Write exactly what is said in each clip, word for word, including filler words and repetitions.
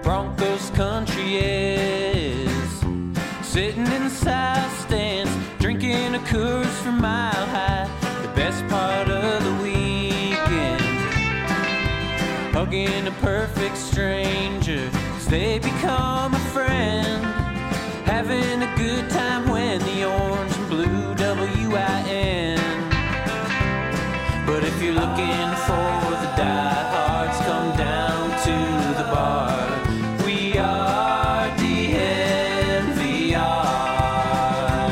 Broncos country is. Sitting in the south stands, drinking a Coors from Mile High. The best part of the weekend, hugging a perfect stranger as they become a friend. Having a good time when the orange and blue W I N. But if you're looking for the diehards, come down to the bar. We are D N V R.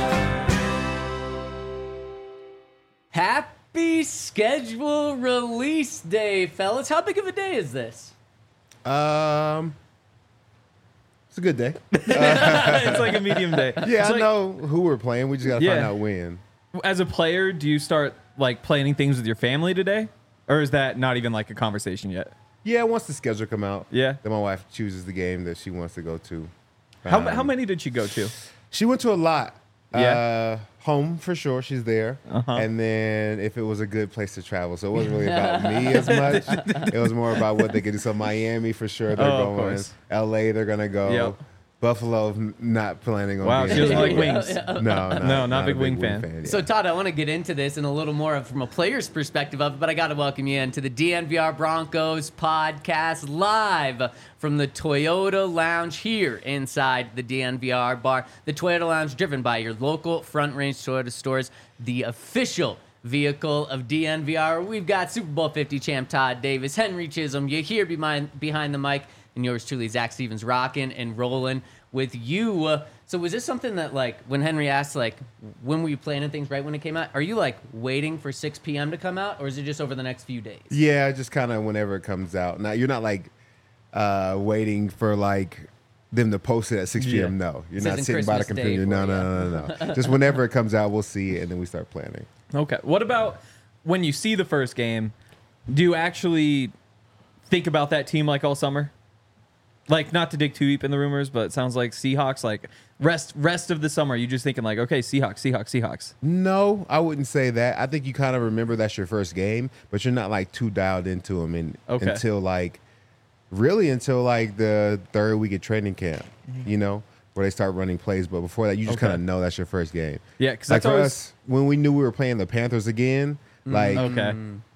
Happy schedule release day, fellas. How big of a day is this? Um, it's a good day. It's like a medium day. Yeah, It's I like- know who we're playing. We just gotta find Yeah. out when. As a player, do you start like planning things with your family today, or is that not even like a conversation yet? Yeah, once the schedule come out, Yeah. then my wife chooses the game that she wants to go to. How Um, how many did you go to? She went to a lot. Yeah. Uh, home for sure. She's there. Uh-huh. And then if it was a good place to travel, so it wasn't really about me as much. It was more about what they could do. So Miami for sure. They're Oh, of going. course. L A they're gonna go. Yep. Buffalo n- not planning on. Wow, being she doesn't there. like wings. No, not, No, not a big wing fan. yeah. So, Todd, I want to get into this in a little more of, from a player's perspective of it, but I got to welcome you into the D N V R Broncos podcast live from the Toyota Lounge here inside the D N V R bar. The Toyota Lounge, driven by your local Front Range Toyota stores, the official vehicle of D N V R. We've got Super Bowl fifty champ Todd Davis, Henry Chisholm. You're here behind, behind the mic, and yours truly, Zach Stevens, rocking and rolling with you. Uh, so was this something that, like, when Henry asked, like, when were you planning things right when it came out? Are you, like, waiting for six p.m. to come out, or is it just over the next few days? Yeah, just kind of whenever it comes out. Now you're not like uh, waiting for like them to post it at six p.m. No, you're This not isn't sitting by the Christmas Day computer. No, for no, no, no, no. Just whenever it comes out, we'll see it and then we start planning. Okay. What about when you see the first game? Do you actually think about that team like all summer? Like, not to dig too deep in the rumors, but it sounds like Seahawks, like rest rest of the summer, you just thinking like, okay, Seahawks, Seahawks, Seahawks. No, I wouldn't say that. I think you kind of remember that's your first game, but you're not like too dialed into them in, Okay. until like really until like the third week of training camp, you know, where they start running plays. But before that, you just Okay. kind of know that's your first game. Yeah, because Like that's for always us, when we knew we were playing the Panthers again, like okay.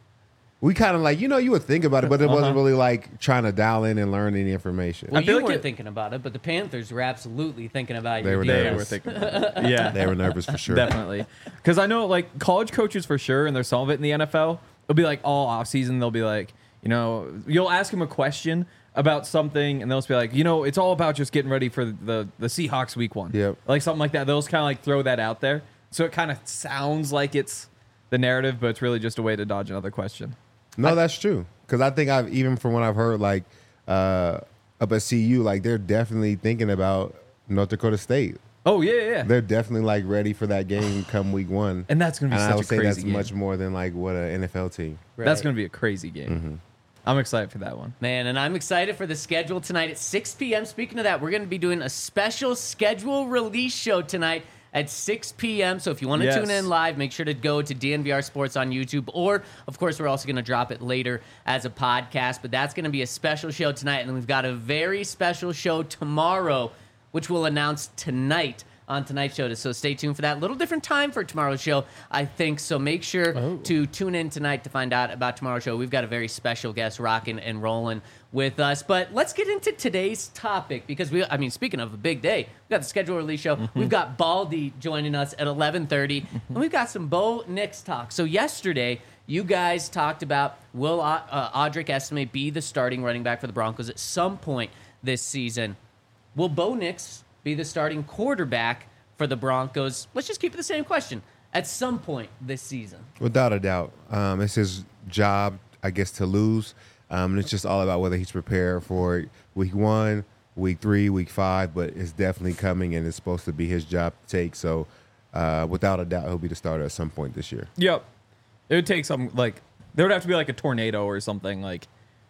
we kind of like, you know, you would think about it, but it wasn't Uh-huh. really like trying to dial in and learn any information. Well, I feel you like weren't it- thinking about it, but the Panthers were absolutely thinking about They you. were They nervous. were thinking about it. Yeah. They were nervous for sure. Definitely. Because I know, like, college coaches for sure, and there's some of it in the N F L, it'll be like all offseason, they'll be like, you know, you'll ask them a question about something, and they'll just be like, you know, it's all about just getting ready for the, the Seahawks week one. Yep. Like something like that. They'll just kind of like throw that out there. So it kind of sounds like it's the narrative, but it's really just a way to dodge another question. No, that's true. Because I think I've even from what I've heard, like uh, up at C U, like they're definitely thinking about North Dakota State. Oh, yeah, yeah, yeah. They're definitely like ready for that game come week one. And that's going to be And I such would a say crazy that's game. much more than like what an N F L team. Right. That's going to be a crazy game. Mm-hmm. I'm excited for that one. Man, and I'm excited for the schedule tonight at six p.m. Speaking of that, we're going to be doing a special schedule release show tonight at six p.m. So if you want to Yes. tune in live, make sure to go to D N V R Sports on YouTube. Or, of course, we're also going to drop it later as a podcast. But that's going to be a special show tonight. And then we've got a very special show tomorrow, which we'll announce tonight on tonight's show. So stay tuned for that. A little different time for tomorrow's show, I think. So make sure Oh. to tune in tonight to find out about tomorrow's show. We've got a very special guest rocking and rolling with us. But let's get into today's topic because we, I mean, speaking of a big day, we've got the schedule release show. Mm-hmm. We've got Baldy joining us at eleven thirty, and we've got some Bo Nix talk. So yesterday, you guys talked about will uh, Audric Estime be the starting running back for the Broncos at some point this season? Will Bo Nix be the starting quarterback for the Broncos? Let's just keep it the same question. At some point this season. Without a doubt. Um, it's his job, I guess, to lose. Um, and it's just all about whether he's prepared for week one, week three, week five, but it's definitely coming and it's supposed to be his job to take. So uh, without a doubt, he'll be the starter at some point this year. Yep. It would take some, like, there would have to be like a tornado or something, like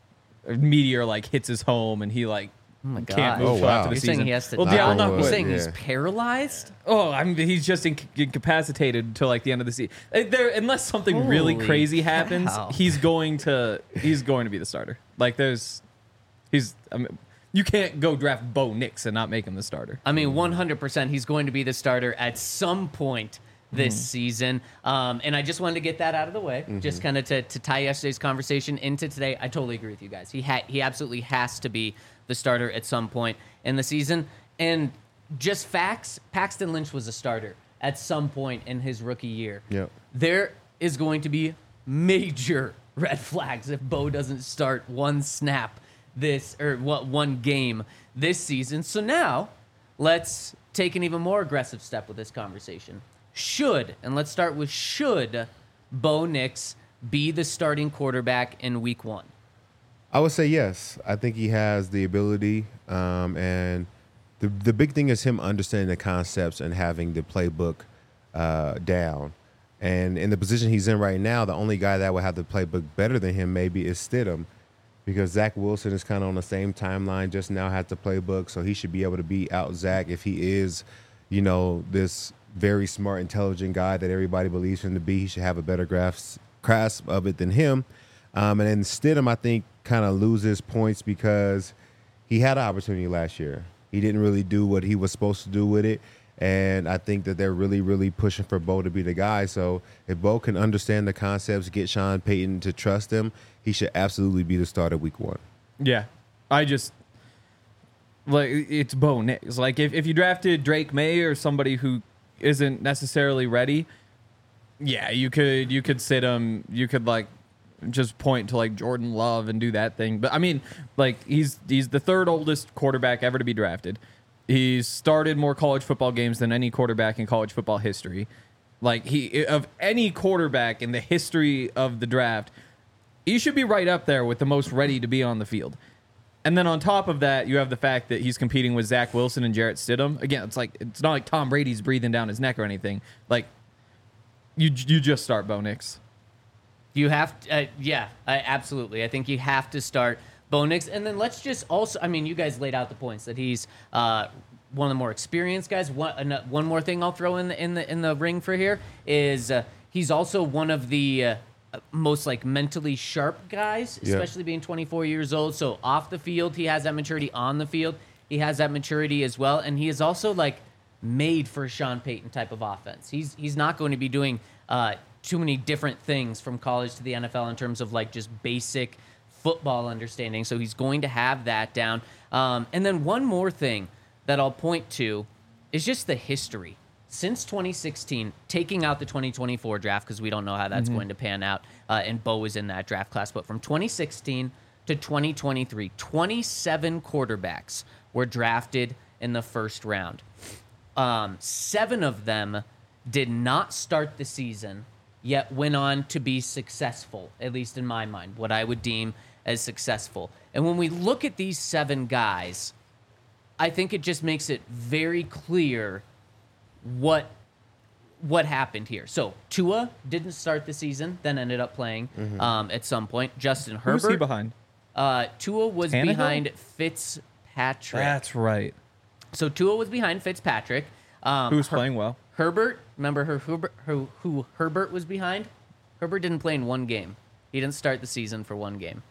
a meteor like hits his home and he like Oh my can't God. move Oh, till wow. after the You're season. saying he has to well, die? yeah, I'm Knock not on You're wood. saying yeah. he's paralyzed? Oh, I mean, he's just inc- incapacitated until like the end of the season. Uh, There, unless something really Holy crazy happens, cow. he's going to he's going to be the starter. Like there's, he's I mean, you can't go draft Bo Nix and not make him the starter. I mean, one hundred percent he's going to be the starter at some point this Mm-hmm. season. Um, and I just wanted to get that out of the way, Mm-hmm. just kind of to, to tie yesterday's conversation into today. I totally agree with you guys. He ha- he absolutely has to be the starter at some point in the season. And just facts, Paxton Lynch was a starter at some point in his rookie year. Yep. There is going to be major red flags if Bo doesn't start one snap this or what one game this season. So now let's take an even more aggressive step with this conversation. Should, and let's start with should, Bo Nix be the starting quarterback in week one? I would say yes. I think he has the ability, um, and the the big thing is him understanding the concepts and having the playbook uh, down. And in the position he's in right now, the only guy that would have the playbook better than him maybe is Stidham, because Zach Wilson is kind of on the same timeline, just now has the playbook, so he should be able to beat out Zach if he is, you know, this very smart, intelligent guy that everybody believes him to be. He should have a better grasp, grasp of it than him. Um, and then Stidham, I think, kind of loses points because he had an opportunity last year. He didn't really do what he was supposed to do with it. And I think that they're really, really pushing for Bo to be the guy. So if Bo can understand the concepts, get Sean Payton to trust him, he should absolutely be the starter week one. Yeah. I just, like, it's Bo Nix. Like, if, if you drafted Drake May or somebody who isn't necessarily ready, yeah, you could you could sit him, you could, like, just point to, like, Jordan Love and do that thing. But, I mean, like, he's he's the third oldest quarterback ever to be drafted. He's started more college football games than any quarterback in college football history. Like, he of any quarterback in the history of the draft, he should be right up there with the most ready to be on the field. And then on top of that, you have the fact that he's competing with Zach Wilson and Jarrett Stidham. Again, it's like it's not like Tom Brady's breathing down his neck or anything. Like, you you just start Bo Nix. You have to, uh, yeah, I, absolutely. I think you have to start Bo Nix. And then let's just also, I mean, you guys laid out the points that he's uh, one of the more experienced guys. One, uh, one more thing I'll throw in the, in the, in the ring for here is uh, he's also one of the uh, most like mentally sharp guys, Yeah. especially being twenty-four years old. So off the field, he has that maturity. On the field, he has that maturity as well. And he is also like made for a Sean Payton type of offense. He's, he's not going to be doing uh, too many different things from college to the N F L in terms of like just basic football understanding. So he's going to have that down. Um, and then one more thing that I'll point to is just the history. Since twenty sixteen, taking out the twenty twenty-four draft, because we don't know how that's going to pan out, uh, and Bo was in that draft class, but from twenty sixteen to twenty twenty-three, twenty-seven quarterbacks were drafted in the first round. Um, seven of them did not start the season, yet went on to be successful, at least in my mind, what I would deem as successful. And when we look at these seven guys, I think it just makes it very clear what what happened here. So Tua didn't start the season, then ended up playing um, at some point. Justin Who was Herbert. he behind? Uh, Tua was Tannehill? behind Fitzpatrick. That's right. So Tua was behind Fitzpatrick. Um, Who was Her- playing well? Herbert, remember her, Herbert, who, who Herbert was behind? Herbert didn't play in one game. He didn't start the season for one game.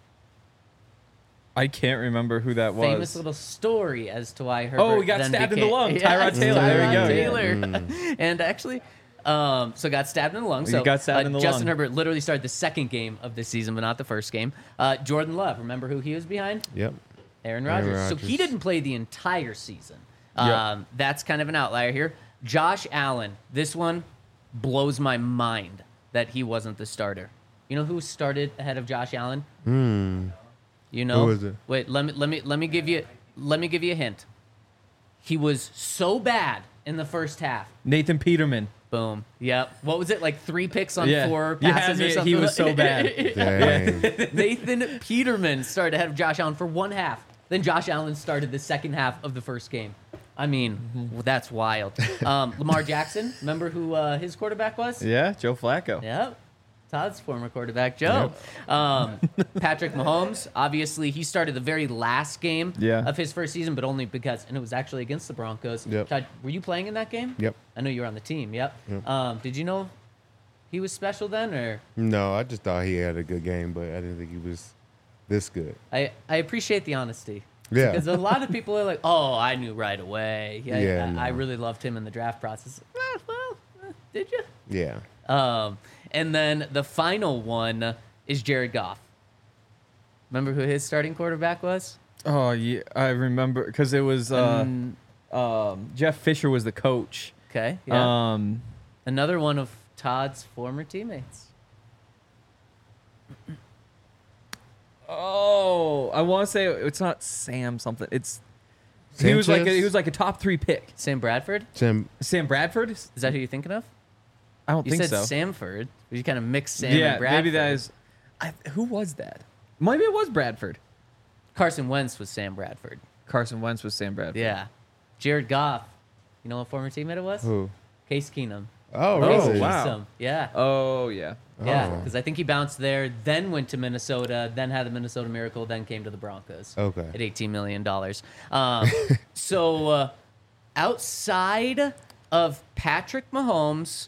I can't remember who that was. Famous little story as to why Herbert. Oh, he got then stabbed in the became- lung. Yeah, Tyrod Taylor. Tyrod There we go. Taylor. and actually, um, so got stabbed in the lung. He So got stabbed uh, in the Justin lung. Herbert literally started the second game of this season, but not the first game. Uh, Jordan Love, remember who he was behind? Yep. Aaron Aaron Rodgers. So he Rodgers. didn't play the entire season. Yep. Um, that's kind of an outlier here. Josh Allen. This one blows my mind that he wasn't the starter. You know who started ahead of Josh Allen? Hmm. You know? Who was it? Wait, let me let me let me give you let me give you a hint. He was so bad in the first half. Nathan Peterman. Boom. Yep. What was it? Like three picks on Yeah. four Yeah, passes or he- something? he was so bad. Dang. Nathan Peterman started ahead of Josh Allen for one half. Then Josh Allen started the second half of the first game. I mean, well, that's wild. Um, Lamar Jackson, remember who uh, his quarterback was? Yeah, Joe Flacco. Yep. Todd's former quarterback, Joe. Um, Patrick Mahomes, obviously, he started the very last game Yeah. of his first season, but only because, and it was actually against the Broncos. Yep. Todd, were you playing in that game? Yep. I know you were on the team. Yep. Yep. Um, did you know he was special then, or No, I just thought he had a good game, but I didn't think he was this good. I, I appreciate the honesty. Yeah. Because a lot of people are like, "Oh, I knew right away. Yeah, Yeah, I, no. I really loved him in the draft process." Eh, well, eh, did you? Yeah. Um, and then the final one is Jared Goff. Remember who his starting quarterback was? Oh yeah, I remember because it was uh, Mm, um, Jeff Fisher was the coach. okay, yeah. Um, Another one of Todd's former teammates. oh, I want to say it's not Sam something. It's he was like a, Sanchez? he was like a top three pick. Sam Bradford? Sam. Sam Bradford? Is that who you're thinking of? I don't You think said so. Samford. You kind of mixed Sam yeah, and Bradford. maybe that is. I, who was that? Maybe it was Bradford. Carson Wentz was Sam Bradford. Carson Wentz was Sam Bradford. Yeah. Jared Goff. You know what former teammate it was? Who? Case Keenum. Oh, Oh, really? wow. Newsome. Yeah. Oh yeah. Yeah, Oh. because I think he bounced there, then went to Minnesota, then had the Minnesota Miracle, then came to the Broncos. Okay. At eighteen million dollars. Um, so uh, outside of Patrick Mahomes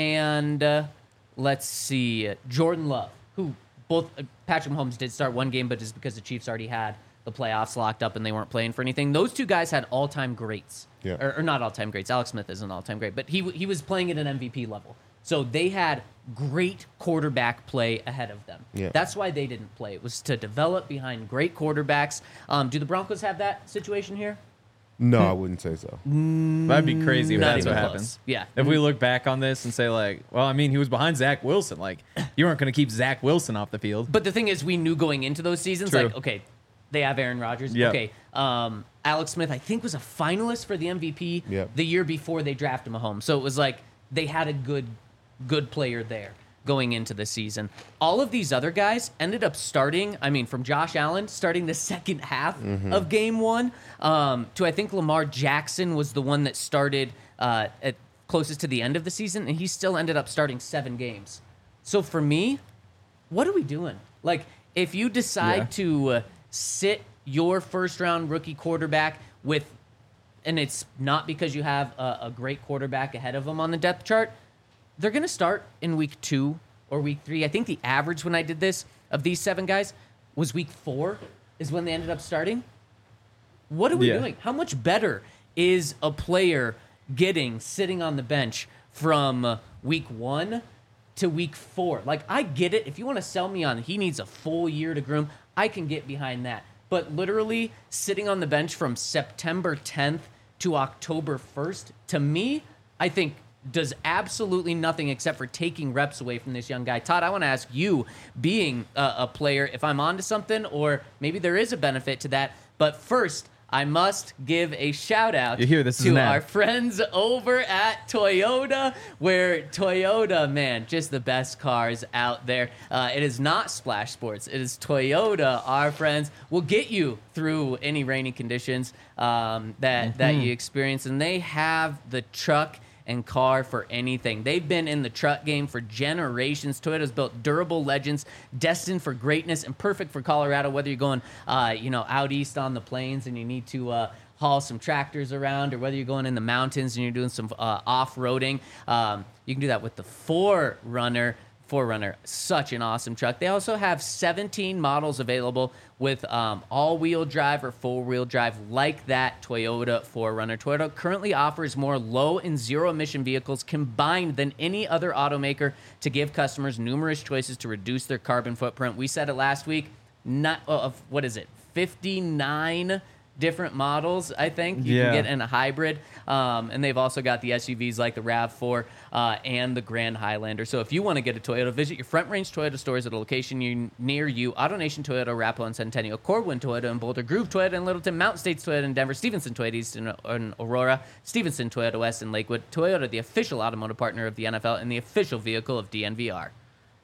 and uh, let's see, Jordan Love, who both uh, Patrick Mahomes did start one game, but just because the Chiefs already had the playoffs locked up and they weren't playing for anything. Those two guys had all-time greats. Yeah. Or, or not all-time greats. Alex Smith is an all-time great, but he w- he was playing at an M V P level. So they had great quarterback play ahead of them. Yeah. That's why they didn't play. It was to develop behind great quarterbacks. Um, do the Broncos have that situation here? No, I wouldn't say so. That'd be crazy if Not that's even what close. happens. Yeah. If we look back on this and say like, well, I mean, he was behind Zach Wilson. Like, you weren't going to keep Zach Wilson off the field. But the thing is, we knew going into those seasons, True. like, okay, they have Aaron Rodgers. Yep. Okay, um, Alex Smith, I think, was a finalist for the M V P Yep. the year before they drafted Mahomes. So it was like they had a good, good player there going into the season. All of these other guys ended up starting, I mean, from Josh Allen, starting the second half of game one, um, to I think Lamar Jackson was the one that started uh, at closest to the end of the season, and he still ended up starting seven games. So for me, what are we doing? Like, if you decide Yeah. to uh, sit your first round rookie quarterback with, and it's not because you have a, a great quarterback ahead of them on the depth chart, they're going to start in week two or week three. I think the average when I did this of these seven guys was week four is when they ended up starting. What are we Yeah. doing? How much better is a player getting sitting on the bench from uh, week one to week four? Like, I get it. If you want to sell me on he needs a full year to groom, I can get behind that. But literally sitting on the bench from September tenth to October first, to me, I think does absolutely nothing except for taking reps away from this young guy. Todd, I want to ask you, being a, a player, if I'm onto something, or maybe there is a benefit to that. But first, I must give a shout out You hear this is to an ad. our friends over at Toyota, where Toyota, man, just the best cars out there. Uh, it is not Splash Sports. It is Toyota, our friends, will get you through any rainy conditions um, that, that Mm-hmm. you experience. And they have the truck and car for anything. They've been in the truck game for generations. Toyota's built durable legends destined for greatness and perfect for Colorado, whether you're going, uh, you know, out east on the plains and you need to uh, haul some tractors around, or whether you're going in the mountains and you're doing some uh, off-roading. Um, you can do that with the four runner. four runner, such an awesome truck. They also have seventeen models available with um, all-wheel drive or four-wheel drive like that Toyota four runner. Toyota currently offers more low and zero-emission vehicles combined than any other automaker to give customers numerous choices to reduce their carbon footprint. We said it last week, not uh, of what is it, fifty-nine different models, I think you Yeah. can get in a hybrid. Um, and they've also got the S U Vs like the RAV four uh, and the Grand Highlander. So if you want to get a Toyota, visit your Front Range Toyota stores at a location you, near you. AutoNation Toyota, Arapahoe and Centennial, Corwin Toyota in Boulder, Groove Toyota in Littleton, Mountain States Toyota in Denver, Stevenson Toyota East in, in Aurora, Stevenson Toyota West in Lakewood. Toyota, the official automotive partner of the N F L and the official vehicle of D N V R.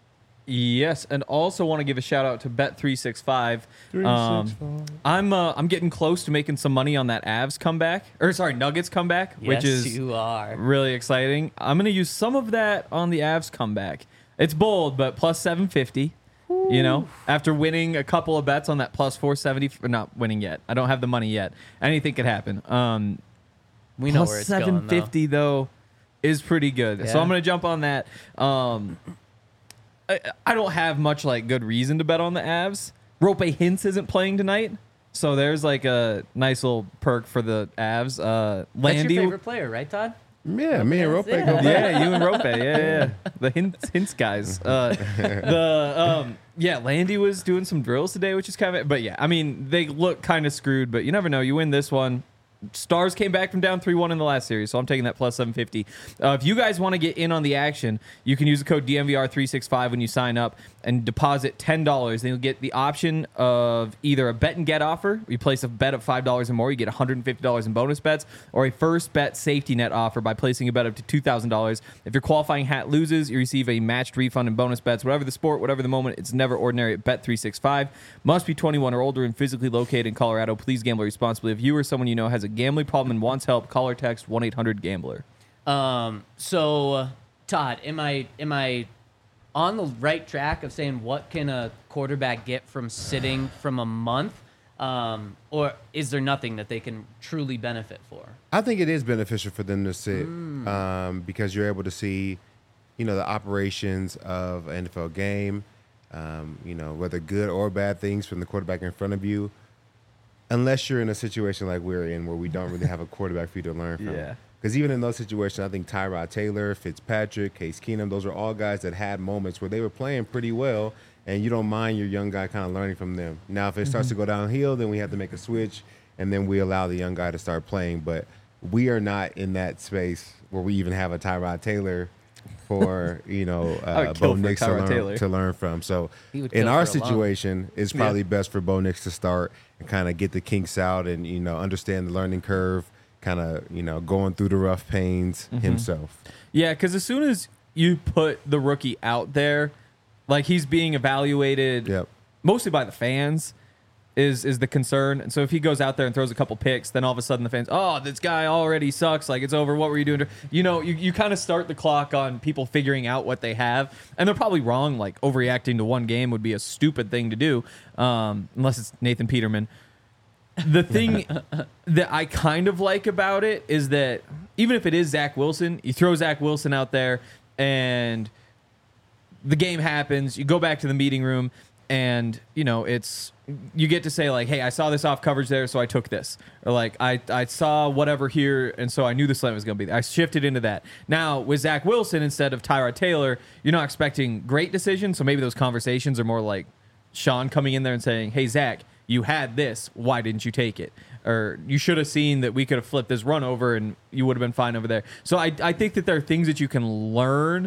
Yes, and also want to give a shout out to Bet three sixty-five. Um, I'm uh, I'm getting close to making some money on that Avs comeback, or sorry, Nuggets comeback, Yes, which is you are. really exciting. I'm gonna use some of that on the Avs comeback. It's bold, but plus seven fifty. You know, after winning a couple of bets on that plus four seventy, or not winning yet. I don't have the money yet. Anything could happen. Um, We know plus where it's going, seven though. fifty though is pretty good. So Yeah. I'm gonna jump on that. Um, I, I don't have much like good reason to bet on the Avs. Rope Hintz isn't playing tonight, So there's like a nice little perk for the Avs. Uh, That's Landy, your favorite player, right, Todd? Yeah, me and Rope Yeah. go back. yeah, you and Rope, yeah, yeah, yeah. The hints, hints guys. Uh, the um, yeah, Landy was doing some drills today, which is kind of. But yeah, I mean, they look kind of screwed, but you never know. You win this one. Stars came back from down three one in the last series, so I'm taking that plus seven fifty. Uh, if you guys want to get in on the action, you can use the code D N V R three sixty-five when you sign up and deposit ten dollars. Then you'll get the option of either a bet and get offer. You place a bet of five dollars or more, you get one hundred fifty dollars in bonus bets, or a first bet safety net offer by placing a bet up to two thousand dollars. If your qualifying hat loses, you receive a matched refund in bonus bets. Whatever the sport, whatever the moment, it's never ordinary at Bet three sixty-five. Must be twenty-one or older and physically located in Colorado. Please gamble responsibly. If you or someone you know has a gambling problem and wants help, call or text one eight hundred gambler. Um, so, uh, Todd, am I am I on the right track of saying what can a quarterback get from sitting from a month, um, or is there nothing that they can truly benefit for? I think it is beneficial for them to sit um, because you're able to see, you know, the operations of an N F L game, um, you know, whether good or bad things from the quarterback in front of you. Unless you're in a situation like we're in where we don't really have a quarterback for you to learn from. Yeah. Because even in those situations, I think Tyrod Taylor, Fitzpatrick, Case Keenum, those are all guys that had moments where they were playing pretty well, and you don't mind your young guy kind of learning from them. Now, if it starts to go downhill, then we have to make a switch, and then we allow the young guy to start playing. But we are not in that space where we even have a Tyrod Taylor for, you know, uh, would kill Bo for Nix to Tyrod learn, Taylor. to learn from. So He would in kill our for a long- situation, it's probably Yeah. best for Bo Nix to start and kind of get the kinks out and, you know, understand the learning curve, kind of, you know, going through the rough pains Mm-hmm. himself. Yeah, because as soon as you put the rookie out there, like he's being evaluated Yep. mostly by the fans, is is the concern. And so if he goes out there and throws a couple picks, then all of a sudden the fans, oh, this guy already sucks. Like, it's over. What were you doing? You know, you, you kind of start the clock on people figuring out what they have. And they're probably wrong. Like, overreacting to one game would be a stupid thing to do, um, unless it's Nathan Peterman. The thing that I kind of like about it is that even if it is Zach Wilson, you throw Zach Wilson out there and the game happens, you go back to the meeting room, and, you know, it's, you get to say, like, hey, I saw this off coverage there, so I took this. Or, like, I, I saw whatever here, and so I knew the slant was going to be there. I shifted into that. Now, with Zach Wilson instead of Tyrod Taylor, you're not expecting great decisions, so maybe those conversations are more like Sean coming in there and saying, hey, Zach, you had this. Why didn't you take it? Or you should have seen that we could have flipped this run over, and you would have been fine over there. So I, I think that there are things that you can learn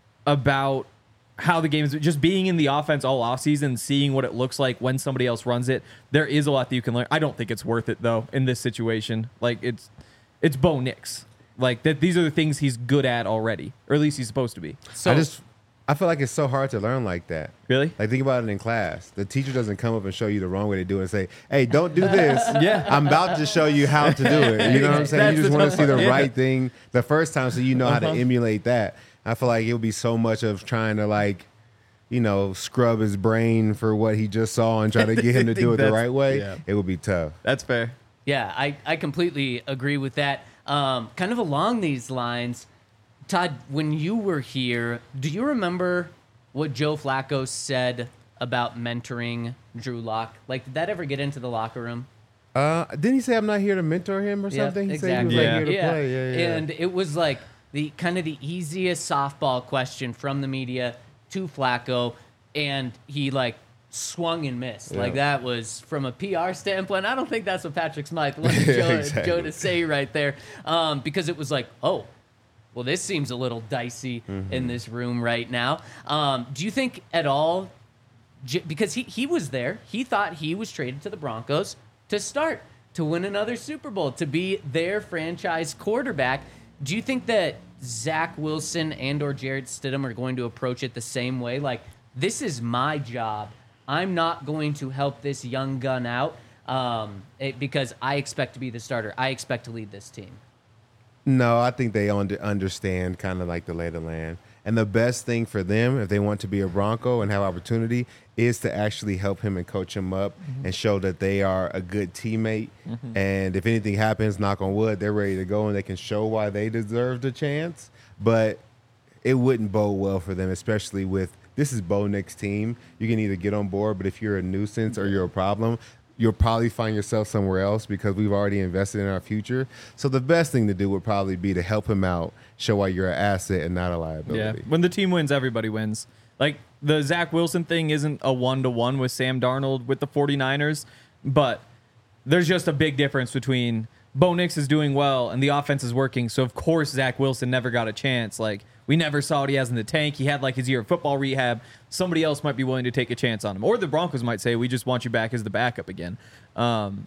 about how the game is, just being in the offense all offseason, seeing what it looks like when somebody else runs it. There is a lot that you can learn. I don't think it's worth it, though, in this situation. Like, it's it's Bo Nix. Like, that. These are the things he's good at already, or at least he's supposed to be. So I just, I feel like it's so hard to learn like that. Really? Like, think about it in class. The teacher doesn't come up and show you the wrong way to do it and say, hey, don't do this. Yeah. I'm about to show you how to do it. You know what I'm saying? That's You just the want to tough see the part. Yeah. right thing the first time so you know how Uh-huh. to emulate that. I feel like it would be so much of trying to, like, you know, scrub his brain for what he just saw and try to get him to I do think it the that's- right way. yeah. It would be tough. That's fair. Yeah, I, I completely agree with that. Um, kind of along these lines, Todd, when you were here, do you remember what Joe Flacco said about mentoring Drew Lock? Like, did that ever get into the locker room? Uh, didn't he say I'm not here to mentor him or Yeah, something? He exactly. said he was Yeah. like here to yeah. play. Yeah, yeah. And it was like the kind of the easiest softball question from the media to Flacco, and he like swung and missed. Yeah. Like, that was from a P R standpoint. I don't think that's what Patrick Smythe wanted Joe, Exactly. Joe to say right there, um, because it was like, oh, well, this seems a little dicey Mm-hmm. in this room right now. Um, do you think at all? J- Because he he was there, he thought he was traded to the Broncos to start, to win another Super Bowl, to be their franchise quarterback. Do you think that Zach Wilson and or Jarrett Stidham are going to approach it the same way? Like, this is my job. I'm not going to help this young gun out um, it, because I expect to be the starter. I expect to lead this team. No, I think they under, understand kind of like the lay of the land. And the best thing for them, if they want to be a Bronco and have opportunity, is to actually help him and coach him up and show that they are a good teammate. And if anything happens, knock on wood, they're ready to go and they can show why they deserved a chance. But it wouldn't bode well for them, especially with this is Bo Nix's team. You can either get on board, but if you're a nuisance or you're a problem, you'll probably find yourself somewhere else because we've already invested in our future. So the best thing to do would probably be to help him out, show why you're an asset and not a liability. Yeah. When the team wins, everybody wins. Like, the Zach Wilson thing isn't a one-to-one with Sam Darnold with the 49ers, but there's just a big difference between Bo Nix is doing well and the offense is working. So, of course, Zach Wilson never got a chance. Like, we never saw what he has in the tank. He had, like, his year of football rehab. Somebody else might be willing to take a chance on him. Or the Broncos might say, we just want you back as the backup again. Um,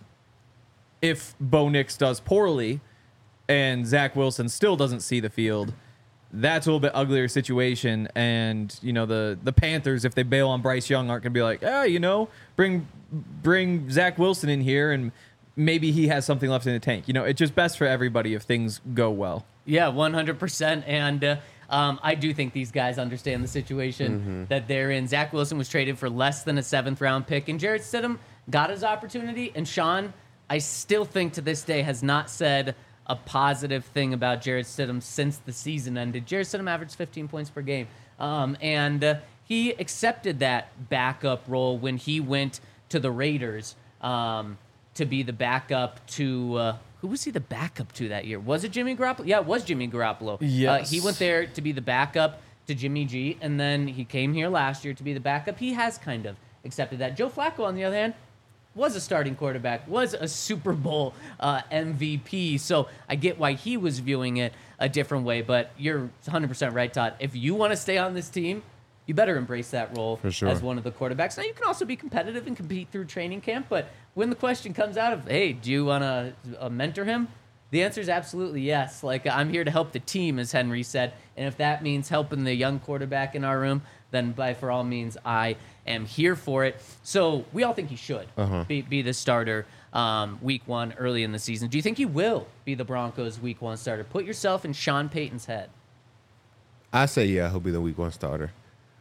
if Bo Nix does poorly and Zach Wilson still doesn't see the field, that's a little bit uglier situation. And, you know, the, the Panthers, if they bail on Bryce Young, aren't going to be like, ah, you know, bring bring Zach Wilson in here and maybe he has something left in the tank. You know, it's just best for everybody if things go well. Yeah, one hundred percent. And uh, um, I do think these guys understand the situation mm-hmm. that they're in. Zach Wilson was traded for less than a seventh-round pick, and Jarrett Stidham got his opportunity. And Sean, I still think to this day, has not said a positive thing about Jarrett Stidham since the season ended. Jarrett Stidham averaged fifteen points per game. Um, and uh, he accepted that backup role when he went to the Raiders um, to be the backup to... Uh, Who was he the backup to that year? Was it Jimmy Garoppolo? Yeah, it was Jimmy Garoppolo. Yes. Uh, he went there to be the backup to Jimmy G, and then he came here last year to be the backup. He has kind of accepted that. Joe Flacco, on the other hand, was a starting quarterback, was a Super Bowl uh, M V P, so I get why he was viewing it a different way, but you're one hundred percent right, Todd. If you want to stay on this team, you better embrace that role For sure. as one of the quarterbacks. Now, you can also be competitive and compete through training camp, but when the question comes out of, hey, do you want to uh, mentor him? The answer is absolutely yes. Like, I'm here to help the team, as Henry said, and if that means helping the young quarterback in our room, then by for all means, I am here for it. So we all think he should uh-huh. be, be the starter um, week one early in the season. Do you think he will be the Broncos' week one starter? Put yourself in Sean Payton's head. I say, yeah, he'll be the week one starter.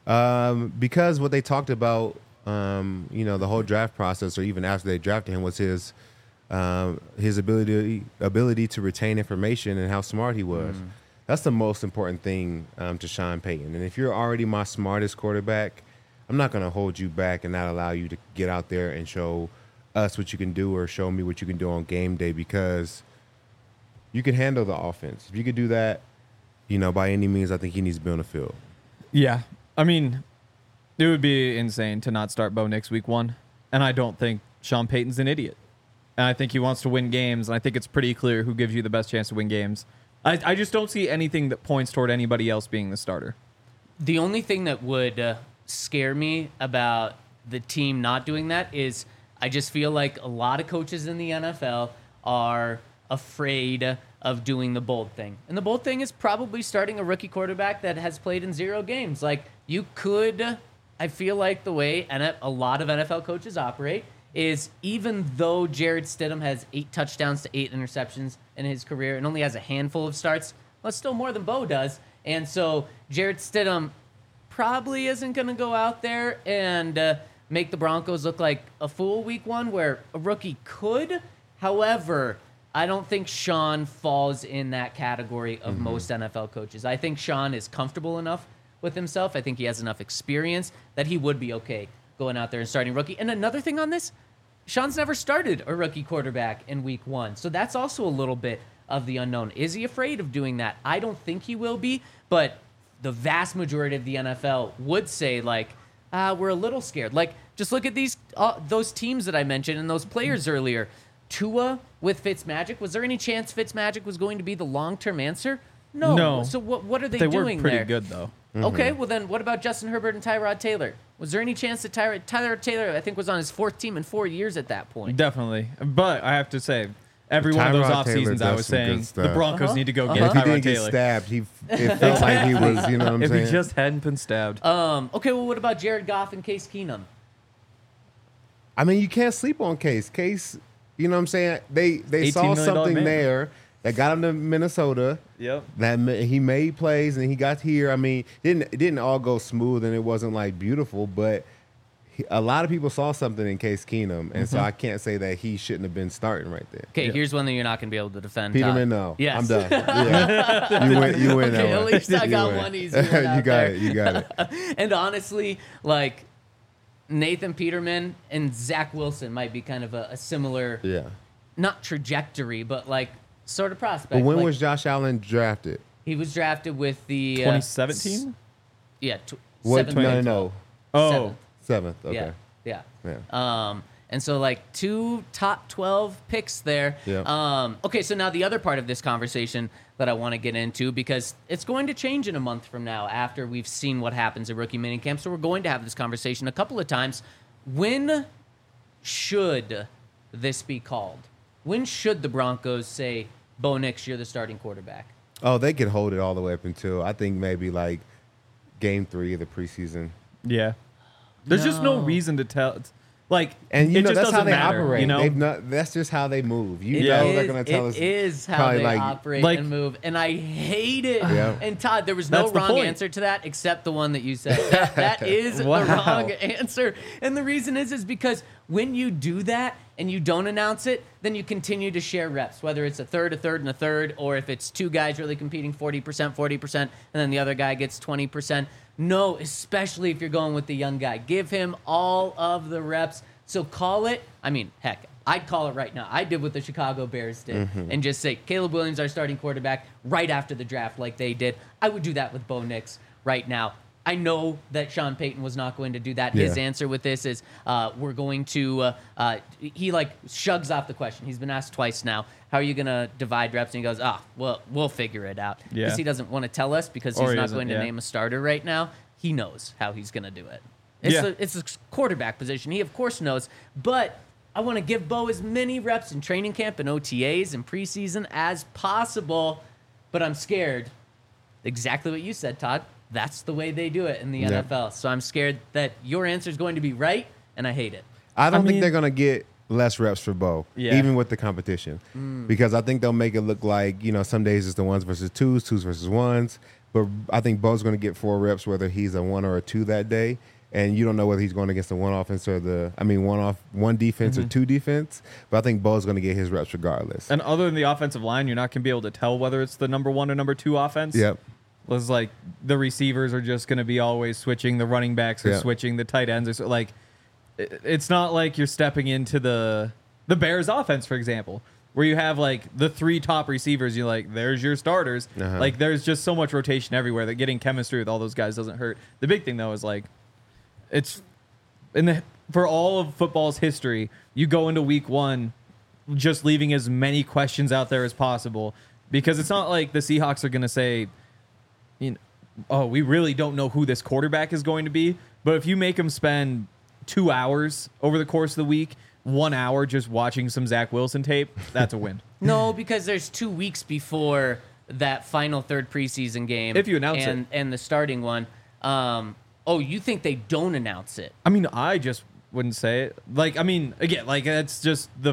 Um, because what they talked about, um, you know, the whole draft process, or even after they drafted him, was his um, his ability ability to retain information and how smart he was. Mm. That's the most important thing um, to Sean Payton. And if you're already my smartest quarterback, I'm not going to hold you back and not allow you to get out there and show us what you can do or show me what you can do on game day, because you can handle the offense. If you could do that, you know, by any means, I think he needs to be on the field. Yeah. I mean, it would be insane to not start Bo Nix week one. And I don't think Sean Payton's an idiot. And I think he wants to win games. And I think it's pretty clear who gives you the best chance to win games. I, I just don't see anything that points toward anybody else being the starter. The only thing that would uh, scare me about the team not doing that is I just feel like a lot of coaches in the N F L are afraid of doing the bold thing. And the bold thing is probably starting a rookie quarterback that has played in zero games. Like, you could, I feel like the way a lot of N F L coaches operate is, even though Jarrett Stidham has eight touchdowns to eight interceptions in his career and only has a handful of starts, well, it's still more than Bo does. And so Jarrett Stidham probably isn't going to go out there and uh, make the Broncos look like a fool week one, where a rookie could. However, I don't think Sean falls in that category of mm-hmm. most N F L coaches. I think Sean is comfortable enough with himself. I think he has enough experience that he would be okay going out there and starting rookie. And another thing on this, Sean's never started a rookie quarterback in week one. So that's also a little bit of the unknown. Is he afraid of doing that? I don't think he will be, but the vast majority of the N F L would say, like, uh, we're a little scared. Like, just look at these uh, those teams that I mentioned and those players earlier. Tua with Fitzmagic. Was there any chance Fitzmagic was going to be the long-term answer? No. No. So what what are they, they doing were pretty there? good, though. Mm-hmm. Okay, well then what about Justin Herbert and Tyrod Taylor? Was there any chance that Tyler, Tyler Taylor, I think, was on his fourth team in four years at that point? Definitely. But I have to say, every one of those Tyrod off Taylor seasons, I does was some good saying, the stuff. Broncos Uh-huh. need to go Uh-huh. get If he Tyrod didn't get Taylor. stabbed, he it felt like he was, you know what I'm If saying? he just hadn't been stabbed. Um, okay, well, what about Jared Goff and Case Keenum? I mean, you can't sleep on Case. Case, you know what I'm saying? They they saw eighteen million dollars something man. there that got him to Minnesota. Yep. That ma- he made plays and he got here. I mean, didn't it didn't all go smooth and it wasn't like beautiful, but he, a lot of people saw something in Case Keenum, and so I can't say that he shouldn't have been starting right there. Okay, Yeah. here's one that you're not going to be able to defend. Peterman, Todd. no. Yes. I'm done. Yeah. you win. You win Okay, that at one. least I You got win. one easy one you out got there. it. You got it. And honestly, like, Nathan Peterman and Zach Wilson might be kind of a, a similar, Yeah. not trajectory, but like sort of prospect. But when Like, was Josh Allen drafted? he was drafted with the uh, twenty seventeen? Yeah, tw- What? seventh No, no, grade. no. Oh, Seventh. Seventh. Okay. Yeah, Yeah. yeah. Um, and so like two top twelve picks there. Yeah. Um, okay, so now the other part of this conversation that I want to get into, because it's going to change in a month from now after we've seen what happens at rookie minicamp. So we're going to have this conversation a couple of times. When should this be called? When should the Broncos say, Bo Nix, you're the starting quarterback? Oh, they could hold it all the way up until I think maybe like game three of the preseason. yeah. There's just no No. reason to tell. Like, And you it know just that's how doesn't they matter, operate. You know, They've not, that's just how they move. You It know is- they're gonna tell it us. is how probably they like- operate Like- and move, and I hate it. Yeah. And Todd, there was no That's the wrong point. answer to that except the one that you said. That, that is Wow. the wrong answer, and the reason is is because when you do that and you don't announce it, then you continue to share reps, whether it's a third, a third, and a third, or if it's two guys really competing forty percent, forty percent, and then the other guy gets twenty percent. No, especially if you're going with the young guy. Give him all of the reps. So call it, I mean, heck, I'd call it right now. I did what the Chicago Bears did and just say, Caleb Williams, our starting quarterback, right after the draft like they did. I would do that with Bo Nix right now. I know that Sean Payton was not going to do that. His Yeah. answer with this is uh, we're going to, uh, uh, he like shrugs off the question. He's been asked twice now, how are you going to divide reps? And he goes, ah, well, we'll figure it out. Yeah. Because he doesn't want to tell us because Or he's he not isn't, going to yeah. name a starter right now. He knows how he's going to do it. It's, Yeah. the, it's the quarterback position. He, of course, knows. But I want to give Bo as many reps in training camp and O T As and preseason as possible. But I'm scared. Exactly what you said, Todd. That's the way they do it in the Yeah. N F L. So I'm scared that your answer is going to be right, and I hate it. I don't I think mean- they're gonna get less reps for Bo, Yeah. even with the competition, Mm. because I think they'll make it look like you know some days it's the ones versus twos, twos versus ones. But I think Bo's gonna get four reps whether he's a one or a two that day, and you don't know whether he's going against the one offense or the I mean one off one defense Mm-hmm. or two defense. But I think Bo's gonna get his reps regardless. and other than the offensive line, you're not going to be able to tell whether it's the number one or number two offense. Yep. Was like the receivers are just going to be always switching, the running backs are Yeah. switching, the tight ends are so, like, it- it's not like you're stepping into the the Bears offense, for example, where you have like the three top receivers. You're like, there's your starters. Uh-huh. Like, there's just so much rotation everywhere that getting chemistry with all those guys doesn't hurt. The big thing though is like, it's in the for all of football's history, you go into week one just leaving as many questions out there as possible, because it's not like the Seahawks are going to say, you know, oh, we really don't know who this quarterback is going to be. But if you make them spend two hours over the course of the week, one hour just watching some Zach Wilson tape, that's a win. No, because there's two weeks before that final third preseason game. If you announce and, it. And the starting one. Um, oh, you think they don't announce it? I mean, I just wouldn't say it. Like, I mean, again, like that's just the.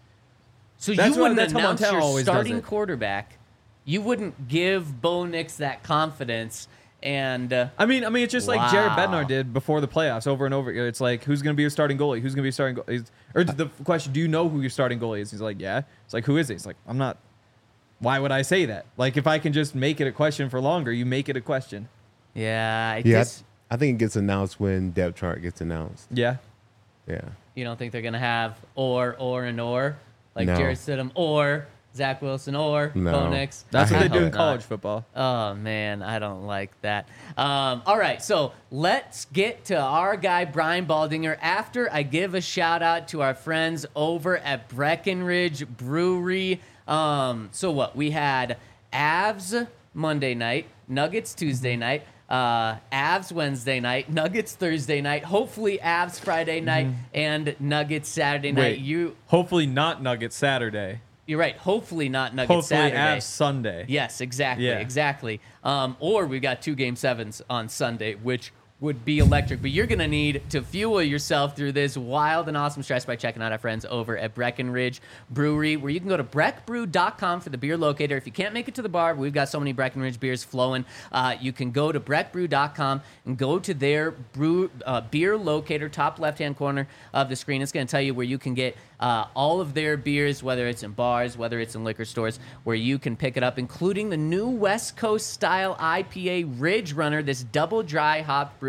So That's you what- wouldn't that's how announce Montel your always does starting it. quarterback. You wouldn't give Bo Nix that confidence. And uh, I mean, I mean, it's just like Jared Wow. Bednar did before the playoffs, over and over. It's like, who's going to be your starting goalie? Who's going to be your starting goalie? Or the question, do you know who your starting goalie is? He's like, yeah. It's like, who is it? He's like, I'm not. Why would I say that? Like, if I can just make it a question for longer, you make it a question. yeah, I Yeah, I, guess I think it gets announced when depth chart gets announced. Yeah. Yeah. you don't think they're going to have or, or, and or, like No. Jared Stidham or Zach Wilson or No. Bo Nix. That's I what they hope do in not. college football. Oh man, I don't like that. Um, all right, so let's get to our guy Brian Baldinger after I give a shout out to our friends over at Breckenridge Brewery. Um, so what we had Avs Monday night, Nuggets Tuesday night, uh, Avs Wednesday night, Nuggets Thursday night, hopefully Avs Friday night, and Nuggets Saturday night. Wait, You hopefully not Nuggets Saturday. you're right. Hopefully not Nuggets Hopefully Saturday. Avs Sunday. Yes, exactly, Yeah. exactly. Um, or we've got two game sevens on Sunday, which would be electric. But you're going to need to fuel yourself through this wild and awesome stretch by checking out our friends over at Breckenridge Brewery, where you can go to breck brew dot com for the beer locator. If you can't make it to the bar, we've got so many Breckenridge beers flowing. Uh, you can go to breck brew dot com and go to their brew uh, beer locator, top left-hand corner of the screen. It's going to tell you where you can get uh, all of their beers, whether it's in bars, whether it's in liquor stores, where you can pick it up, including the new West Coast style I P A Ridge Runner, this double dry hop brew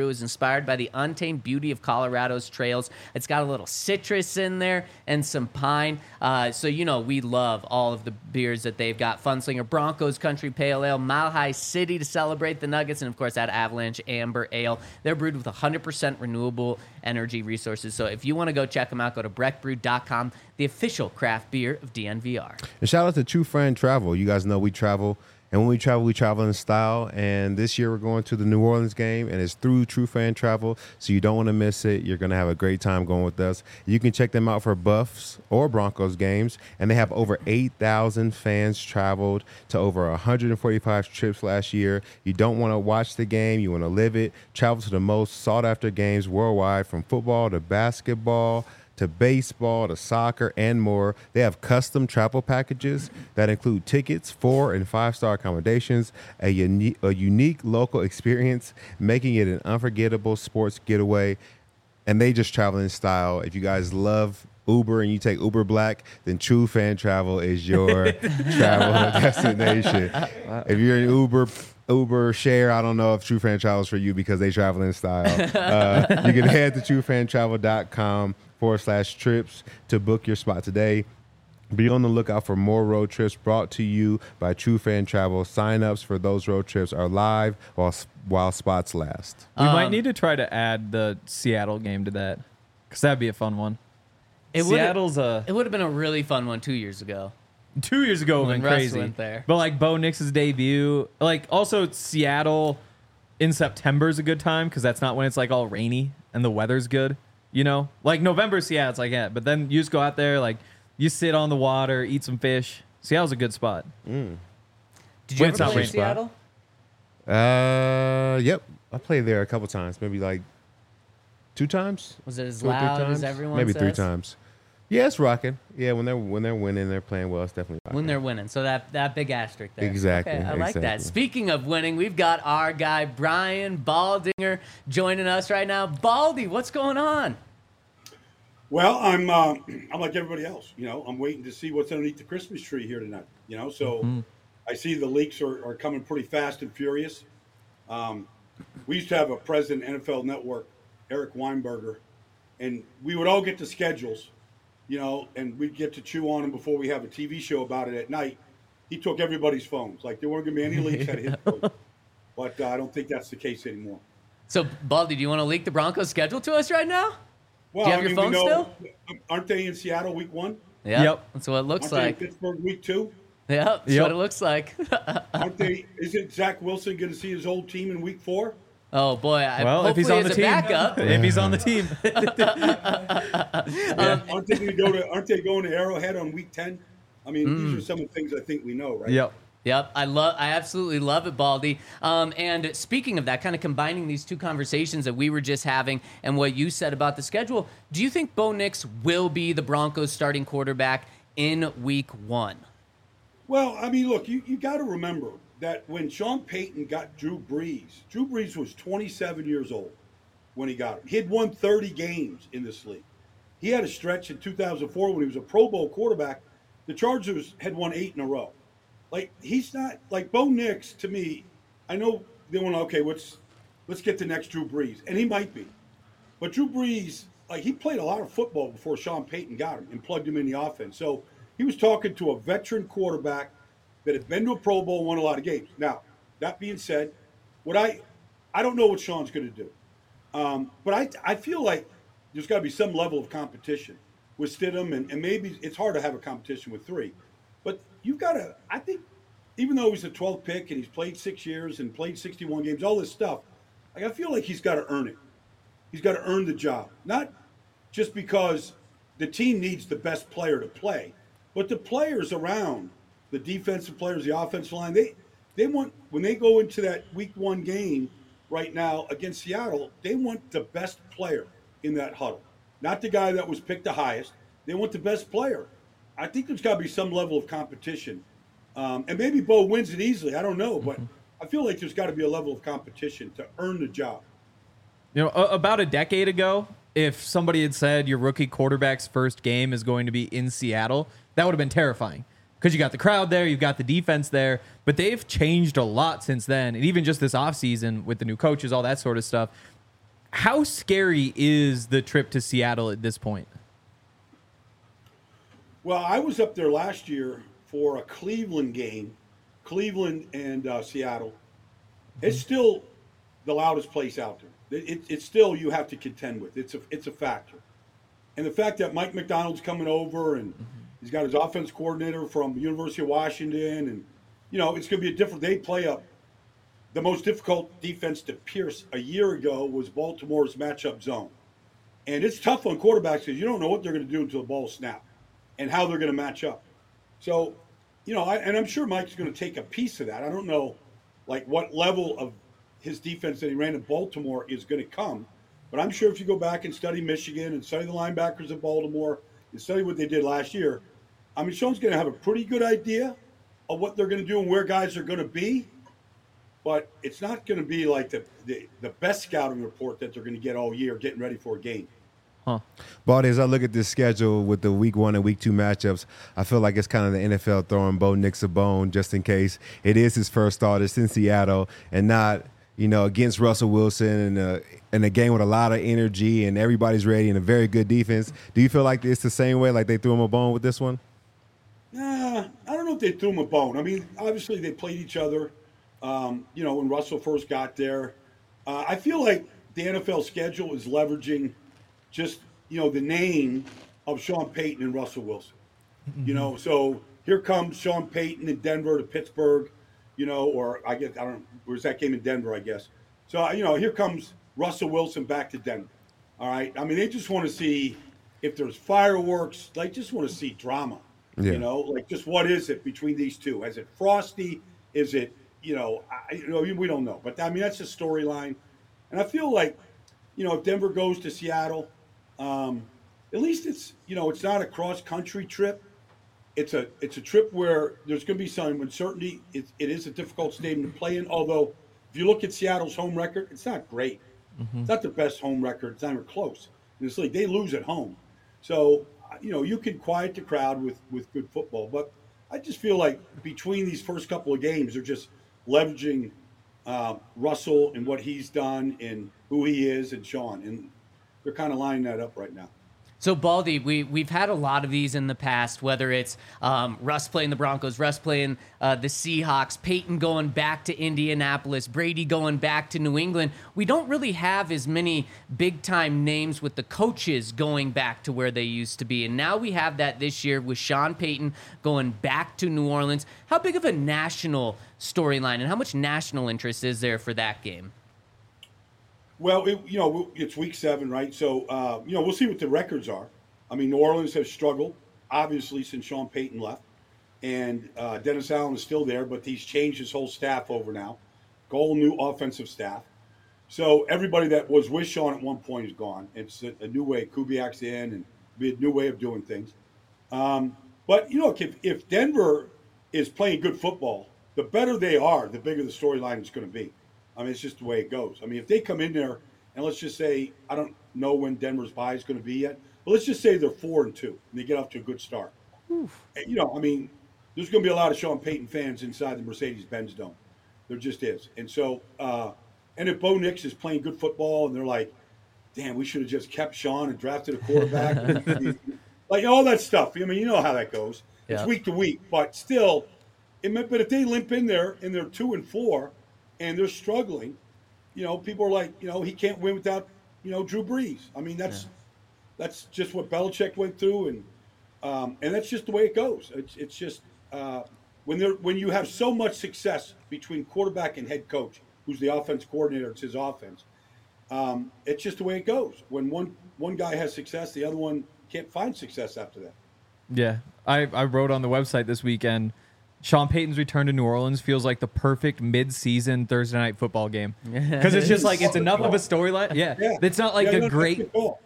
brew is inspired by the untamed beauty of Colorado's trails. It's got a little citrus in there and some pine. Uh, so, you know, we love all of the beers that they've got. Funslinger Broncos Country Pale Ale, Mile High City to celebrate the Nuggets, and, of course, that Avalanche Amber Ale. They're brewed with one hundred percent renewable energy resources. So if you want to go check them out, go to breck brew dot com, the official craft beer of D N V R. And shout out to True Friend Travel. You guys know we travel. And when we travel, we travel in style. And this year we're going to the New Orleans game, and it's through True Fan Travel, so you don't want to miss it. You're going to have a great time going with us. You can check them out for Buffs or Broncos games, and they have over eight thousand fans traveled to over one hundred forty-five trips last year. You don't want to watch the game. You want to live it. Travel to the most sought-after games worldwide, from football to basketball to baseball, to soccer, and more. They have custom travel packages that include tickets, four and five-star accommodations, a, uni- a unique local experience, making it an unforgettable sports getaway. And they just travel in style. If you guys love Uber and you take Uber Black, then True Fan Travel is your travel destination. If you're in Uber, Uber share, I don't know if True Fan Travel is for you because they travel in style. Uh, you can head to true fan travel dot com forward slash trips to book your spot today. Be on the lookout for more road trips brought to you by True Fan Travel. Sign-ups for those road trips are live while while spots last. We Um, might need to try to add the Seattle game to that, because that'd be a fun one. It would've- Seattle's a It would have been a really fun one two years ago. two years ago When been Russ crazy. went there. But like Bo Nix's debut, like also Seattle in September is a good time because that's not when it's like all rainy and the weather's good. You know, like November, Seattle's like yeah, but then you just go out there, like you sit on the water, eat some fish. Seattle's a good spot. Did you When ever it's not play in raining. Seattle? Uh, yep. I played there a couple times, maybe like two times. Was it as Two or three loud times? as everyone Maybe three says? times. Yeah, it's rocking. Yeah, when they're when they're winning, they're playing well. It's definitely rocking. When they're winning. So that, that big asterisk there. Exactly, Okay, I like that. exactly. Speaking of winning, we've got our guy, Brian Baldinger, joining us right now. Baldy, what's going on? Well, I'm uh, I'm like everybody else. You know, I'm waiting to see what's underneath the Christmas tree here tonight. You know, so Mm-hmm. I see the leaks are, are coming pretty fast and furious. Um, we used to have a president N F L Network, Eric Weinberger, and we would all get the schedules, you know, and we'd get to chew on them before we have a T V show about it at night. He took everybody's phones. Like there weren't going to be any leaks at his phone. But uh, I don't think that's the case anymore. So, Baldy, do you want to leak the Broncos schedule to us right now? Well, Do you have I your mean, we phone know, aren't they in Seattle week one? Yeah. Yep. That's what it looks Aren't like. they in Pittsburgh week two? Yep. That's Yep. what it looks like. Aren't they? Isn't Zach Wilson going to see his old team in week four? Oh, boy. I, Well, if he's hopefully on the as a team, backup. if he's on the team, Yeah. Aren't they going to go to? Aren't they going to Arrowhead on week ten? I mean, these are some of the things I think we know, right? yep. Yep, I love, I absolutely love it, Baldy. Um, and speaking of that, kind of combining these two conversations that we were just having and what you said about the schedule, do you think Bo Nix will be the Broncos' starting quarterback in Week One? Well, I mean, look, you, you got to remember that when Sean Payton got Drew Brees, Drew Brees was twenty-seven years old when he got him. He had won thirty games in this league. He had a stretch in two thousand four when he was a Pro Bowl quarterback. The Chargers had won eight in a row. Like, he's not like Bo Nix. To me, I know they want to, okay, let's let's get the next Drew Brees, and he might be. But Drew Brees, like, he played a lot of football before Sean Payton got him and plugged him in the offense. So he was talking to a veteran quarterback that had been to a Pro Bowl and won a lot of games. Now, that being said, what I I don't know what Sean's going to do, um, but I I feel like there's got to be some level of competition with Stidham, and, and maybe it's hard to have a competition with three. But you've got to, I think, even though he's a twelfth pick and he's played six years and played sixty-one games, all this stuff, like, I feel like he's got to earn it. He's got to earn the job. Not just because the team needs the best player to play, but the players around, the defensive players, the offensive line, they, they want, when they go into that week one game right now against Seattle, they want the best player in that huddle. Not the guy that was picked the highest. They want the best player. I think there's got to be some level of competition. Um, and maybe Bo wins it easily. I don't know. But I feel like there's got to be a level of competition to earn the job. You know, a- about a decade ago, if somebody had said your rookie quarterback's first game is going to be in Seattle, that would have been terrifying. Because you got the crowd there, you've got the defense there. But they've changed a lot since then. And even just this offseason with the new coaches, all that sort of stuff. How scary is the trip to Seattle at this point? Well, I was up there last year for a Cleveland game, Cleveland and uh, Seattle. It's still the loudest place out there. It, it, it's still you have to contend with. It's a it's a factor, and the fact that Mike McDonald's coming over and he's got his offense coordinator from University of Washington, and you know it's going to be a different. They play up. The most difficult defense to pierce a year ago was Baltimore's matchup zone, and it's tough on quarterbacks because you don't know what they're going to do until the ball snaps and how they're going to match up. So, you know, I, and I'm sure Mike's going to take a piece of that. I don't know, like what level of his defense that he ran in Baltimore is going to come, but I'm sure if you go back and study Michigan and study the linebackers of Baltimore and study what they did last year, I mean, Sean's going to have a pretty good idea of what they're going to do and where guys are going to be. But it's not going to be like the, the, the best scouting report that they're going to get all year getting ready for a game. Huh. Baldy, as I look at this schedule with the week one and week two matchups, I feel like it's kind of the N F L throwing Bo Nix a bone just in case it is his first start. It's in Seattle and not, you know, against Russell Wilson and a, in a game with a lot of energy and everybody's ready and a very good defense. Do you feel like it's the same way, like they threw him a bone with this one? Nah, I don't know if they threw him a bone. I mean, obviously they played each other. Um, you know, when Russell first got there, uh, I feel like the N F L schedule is leveraging just, you know, the name of Sean Payton and Russell Wilson. Mm-hmm. You know, so here comes Sean Payton in Denver to Pittsburgh, you know, or I guess, I don't know, where's that game in Denver, I guess. So, you know, here comes Russell Wilson back to Denver. All right. I mean, they just want to see if there's fireworks. They just want to see drama. Yeah. You know, like just what is it between these two? Is it frosty? Is it, You know, I, you know, we don't know, but I mean that's a storyline, and I feel like, you know, if Denver goes to Seattle, um, at least it's, you know, it's not a cross country trip. It's a it's a trip where there's going to be some uncertainty. It, it is a difficult stadium to play in. Although, if you look at Seattle's home record, it's not great. Mm-hmm. It's not the best home record. It's not even close in this league. They lose at home, so you know you can quiet the crowd with with good football. But I just feel like between these first couple of games, they're just leveraging uh, Russell and what he's done and who he is and Sean. And they're kind of lining that up right now. So, Baldy, we, we've had a lot of these in the past, whether it's um, Russ playing the Broncos, Russ playing uh, the Seahawks, Peyton going back to Indianapolis, Brady going back to New England. We don't really have as many big-time names with the coaches going back to where they used to be. And now we have that this year with Sean Payton going back to New Orleans. How big of a national storyline and how much national interest is there for that game? Well, it, you know, it's week seven, right? So, uh, you know, we'll see what the records are. I mean, New Orleans has struggled, obviously, since Sean Payton left. And uh, Dennis Allen is still there, but he's changed his whole staff over now. Whole new offensive staff. So everybody that was with Sean at one point is gone. It's a, a new way. Kubiak's in and be a new way of doing things. Um, but, you know, if, if Denver is playing good football, the better they are, the bigger the storyline is going to be. I mean, it's just the way it goes. I mean, if they come in there and let's just say, I don't know when Denver's bye is going to be yet, but let's just say they're four and two and they get off to a good start. Oof. You know, I mean, there's going to be a lot of Sean Payton fans inside the Mercedes-Benz Dome. There just is. And so, uh, and if Bo Nix is playing good football and they're like, damn, we should have just kept Sean and drafted a quarterback. Like all that stuff. I mean, you know how that goes. Yeah. It's week to week, but still, it meant, but if they limp in there and they're two and four, and they're struggling, you know, people are like, you know, he can't win without, you know, Drew Brees. I mean, that's yeah. that's just what Belichick went through, and um, and that's just the way it goes. It's it's just uh, when they're when you have so much success between quarterback and head coach, who's the offense coordinator, it's his offense. Um, it's just the way it goes. When one one guy has success, the other one can't find success after that. Yeah, I I wrote on the website this weekend. Sean Payton's return to New Orleans feels like the perfect mid-season Thursday night football game because it's just like it's enough of a storyline. Yeah. yeah, it's not like yeah, a great.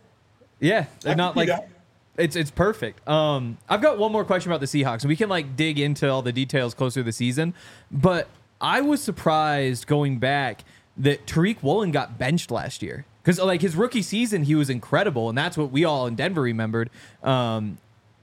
Yeah, not like that. it's it's perfect. Um, I've got one more question about the Seahawks. We can like dig into all the details closer to the season, but I was surprised going back that Tariq Woolen got benched last year because like his rookie season he was incredible, and that's what we all in Denver remembered. Um,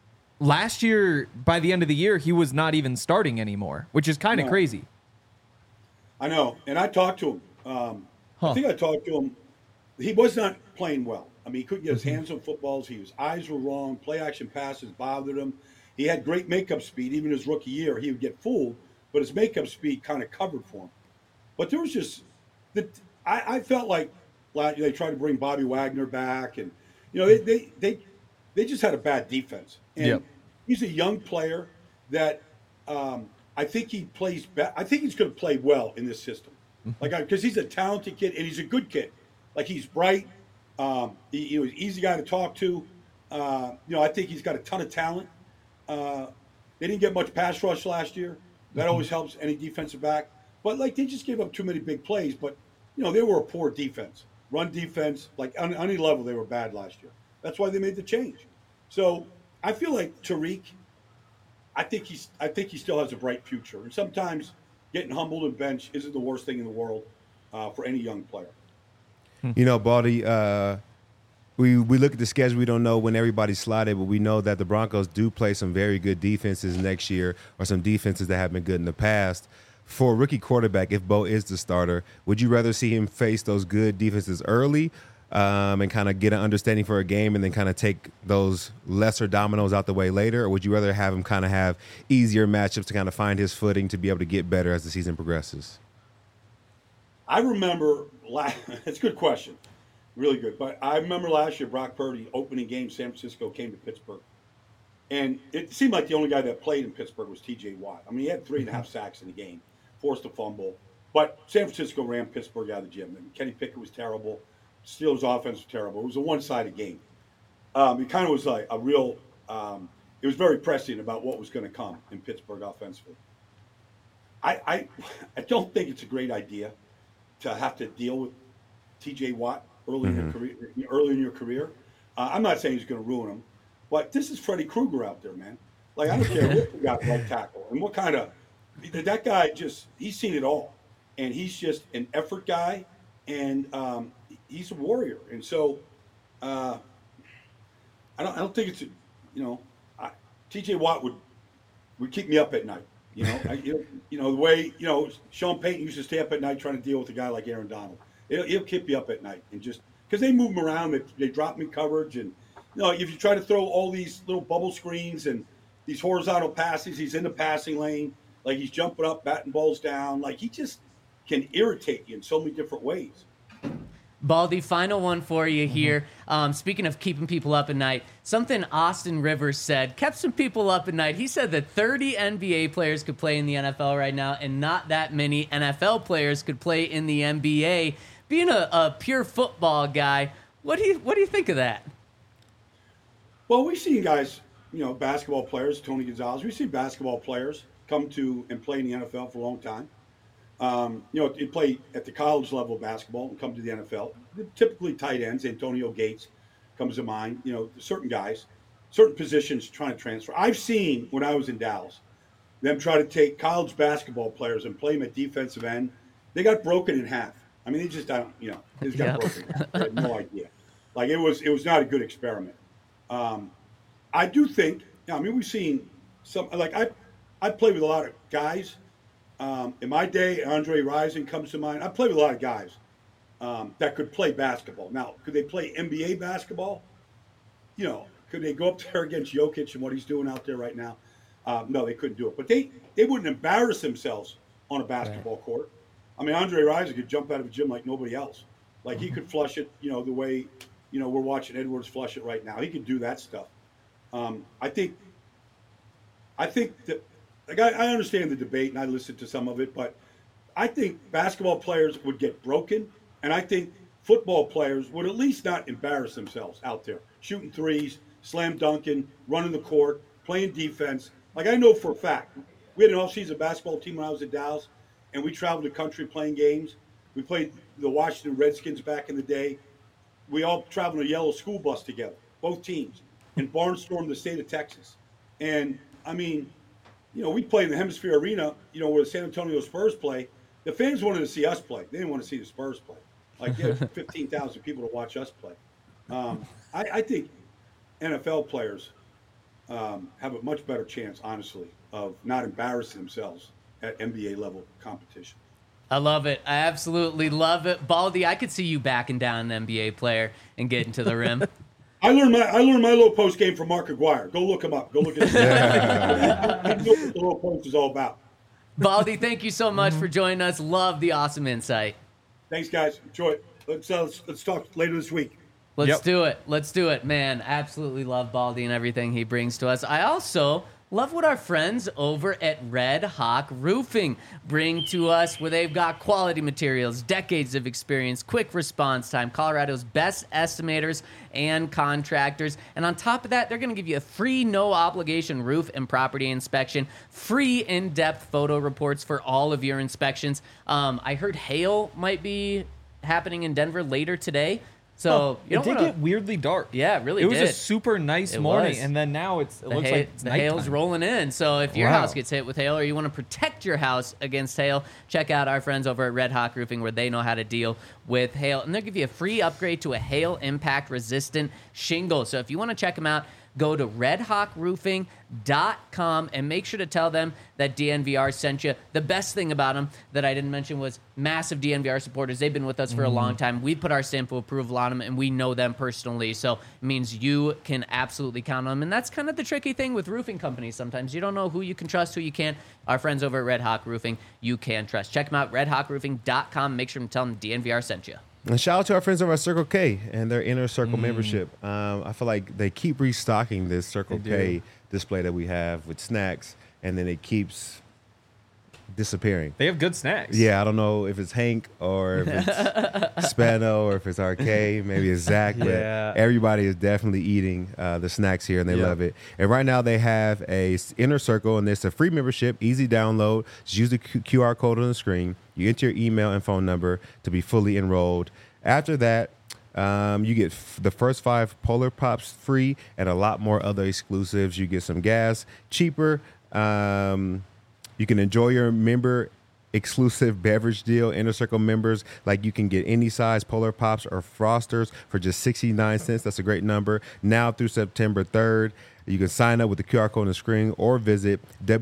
Last year, by the end of the year, he was not even starting anymore, which is kind of no. crazy. I know, and I talked to him. Um, huh. I think I talked to him he was not playing well. I mean, he couldn't get his hands on footballs. He, his eyes were wrong. Play action passes bothered him. He had great makeup speed. Even his rookie year, he would get fooled, but his makeup speed kind of covered for him. But there was just the I, I felt like they tried to bring Bobby Wagner back, and you know they they they, they just had a bad defense. And Yep. he's a young player that um, I think he plays. Be- I think he's going to play well in this system, like because he's a talented kid and he's a good kid. Like he's bright. Um, he, you know, he's an easy guy to talk to. Uh, you know, I think he's got a ton of talent. Uh, they didn't get much pass rush last year. That always helps any defensive back. But like they just gave up too many big plays. But you know, they were a poor defense, run defense. Like on, on any level, they were bad last year. That's why they made the change. So I feel like Tariq. I think he's. I think he still has a bright future. And sometimes getting humbled and bench isn't the worst thing in the world uh, for any young player. You know, Baldy, uh, we we look at the schedule. We don't know when everybody's slotted, but we know that the Broncos do play some very good defenses next year, or some defenses that have been good in the past. For a rookie quarterback, if Bo is the starter, would you rather see him face those good defenses early um, and kind of get an understanding for a game and then kind of take those lesser dominoes out the way later? Or would you rather have him kind of have easier matchups to kind of find his footing to be able to get better as the season progresses? I remember last, it's a good question, really good. But I remember last year, Brock Purdy, opening game, San Francisco came to Pittsburgh. And it seemed like the only guy that played in Pittsburgh was T J Watt. I mean, he had three and a half sacks in the game, forced a fumble. But San Francisco ran Pittsburgh out of the gym. And Kenny Pickett was terrible. Steelers' offense was terrible. It was a one-sided game. Um, it kind of was like a real um, – it was very prescient about what was going to come in Pittsburgh offensively. I, I I don't think it's a great idea to have to deal with T J Watt early mm-hmm. in your career. Early in your career, uh, I'm not saying he's going to ruin him, but this is Freddy Krueger out there, man. Like I don't care what you got right tackle and what kind of that guy just he's seen it all, and he's just an effort guy, and um, he's a warrior. And so, uh, I don't I don't think it's a, you know I, T J Watt would would keep me up at night. You know, I, you know the way you know Sean Payton used to stay up at night trying to deal with a guy like Aaron Donald. He'll, he'll keep you up at night and just because they move him around, they, they drop him in coverage, and you know if you try to throw all these little bubble screens and these horizontal passes, he's in the passing lane, like he's jumping up, batting balls down, like he just can irritate you in so many different ways. Baldy, final one for you here. Um, speaking of keeping people up at night, something Austin Rivers said kept some people up at night. He said that thirty N B A players could play in the N F L right now, and not that many N F L players could play in the N B A. Being a, a pure football guy, what do you what do you think of that? Well, we've seen guys, you know, basketball players, Tony Gonzalez. We've seen basketball players come to and play in the N F L for a long time. Um, you know, they play at the college level of basketball and come to the N F L. They're typically tight ends. Antonio Gates comes to mind. You know, certain guys, certain positions trying to transfer. I've seen when I was in Dallas, them try to take college basketball players and play them at defensive end. They got broken in half. I mean, they just don't. You know, they just got Yeah. broken. In half. They had no idea. Like it was, it was not a good experiment. Um, I do think. I mean, we've seen some. Like I, I played with a lot of guys. Um, in my day, Andre Rison comes to mind. I played with a lot of guys um, that could play basketball. Now, could they play N B A basketball? You know, could they go up there against Jokic and what he's doing out there right now? Um, no, they couldn't do it. But they, they wouldn't embarrass themselves on a basketball right. court. I mean, Andre Rison could jump out of a gym like nobody else. Like he could flush it, you know, the way, you know, we're watching Edwards flush it right now. He could do that stuff. Um, I think, I think that, Like I, I understand the debate, and I listened to some of it, but I think basketball players would get broken, and I think football players would at least not embarrass themselves out there, shooting threes, slam dunking, running the court, playing defense. Like I know for a fact, we had an off-season basketball team when I was in Dallas, and we traveled the country playing games. We played the Washington Redskins back in the day. We all traveled in a yellow school bus together, both teams, and barnstormed the state of Texas. And, I mean, you know, we played in the Hemisphere Arena, you know, where the San Antonio Spurs play. The fans wanted to see us play. They didn't want to see the Spurs play. Like, there's fifteen thousand people to watch us play. Um, I, I think N F L players um, have a much better chance, honestly, of not embarrassing themselves at N B A level competition. I love it. I absolutely love it. Baldy, I could see you backing down an N B A player and getting to the rim. I learned my I learned my low post game from Mark Aguirre. Go look him up. Go look at him. I know what the low post is all about. Baldy, thank you so much for joining us. Love the awesome insight. Thanks, guys. Enjoy it. Let's uh, let's, let's talk later this week. Let's Yep. do it. Let's do it, man. Absolutely love Baldy and everything he brings to us. I also love what our friends over at Red Hawk Roofing bring to us, where they've got quality materials, decades of experience, quick response time, Colorado's best estimators and contractors. And on top of that, they're going to give you a free no-obligation roof and property inspection, free in-depth photo reports for all of your inspections. Um, I heard hail might be happening in Denver later today. So Oh, you it don't did want get weirdly dark. Yeah, it really It was did. a super nice It morning, was. and then now it's it the, looks hay- like it's the hail's nighttime. rolling in. So if your Wow. house gets hit with hail or you want to protect your house against hail, check out our friends over at Red Hawk Roofing, where they know how to deal with hail. And they'll give you a free upgrade to a hail impact resistant shingle. So if you want to check them out, go to red hawk roofing dot com and make sure to tell them that D N V R sent you. The best thing about them that I didn't mention was massive D N V R supporters. They've been with us for a long time. We put our stamp of approval on them, and we know them personally. So it means you can absolutely count on them. And that's kind of the tricky thing with roofing companies. Sometimes you don't know who you can trust, who you can't. Our friends over at Red Hawk Roofing, you can trust. Check them out, red hawk roofing dot com. Make sure to tell them D N V R sent you. And shout out to our friends over at Circle K and their Inner Circle membership. Um, I feel like they keep restocking this Circle They K do. display that we have with snacks, and then it keeps disappearing. They have good snacks. Yeah, I don't know if it's Hank or if it's Spano or if it's R K, maybe it's Zach, but Yeah. everybody is definitely eating uh, the snacks here, and they Yeah. love it. And right now they have a s- Inner Circle, and it's a free membership, easy download. Just use the Q- QR code on the screen. You enter your email and phone number to be fully enrolled. After that, um, you get f- the first five Polar Pops free and a lot more other exclusives. You get some gas, cheaper. Um, you can enjoy your member exclusive beverage deal. Inner Circle members, like, you can get any size Polar Pops or Frosters for just sixty-nine cents. That's a great number. Now through September third. You can sign up with the Q R code on the screen or visit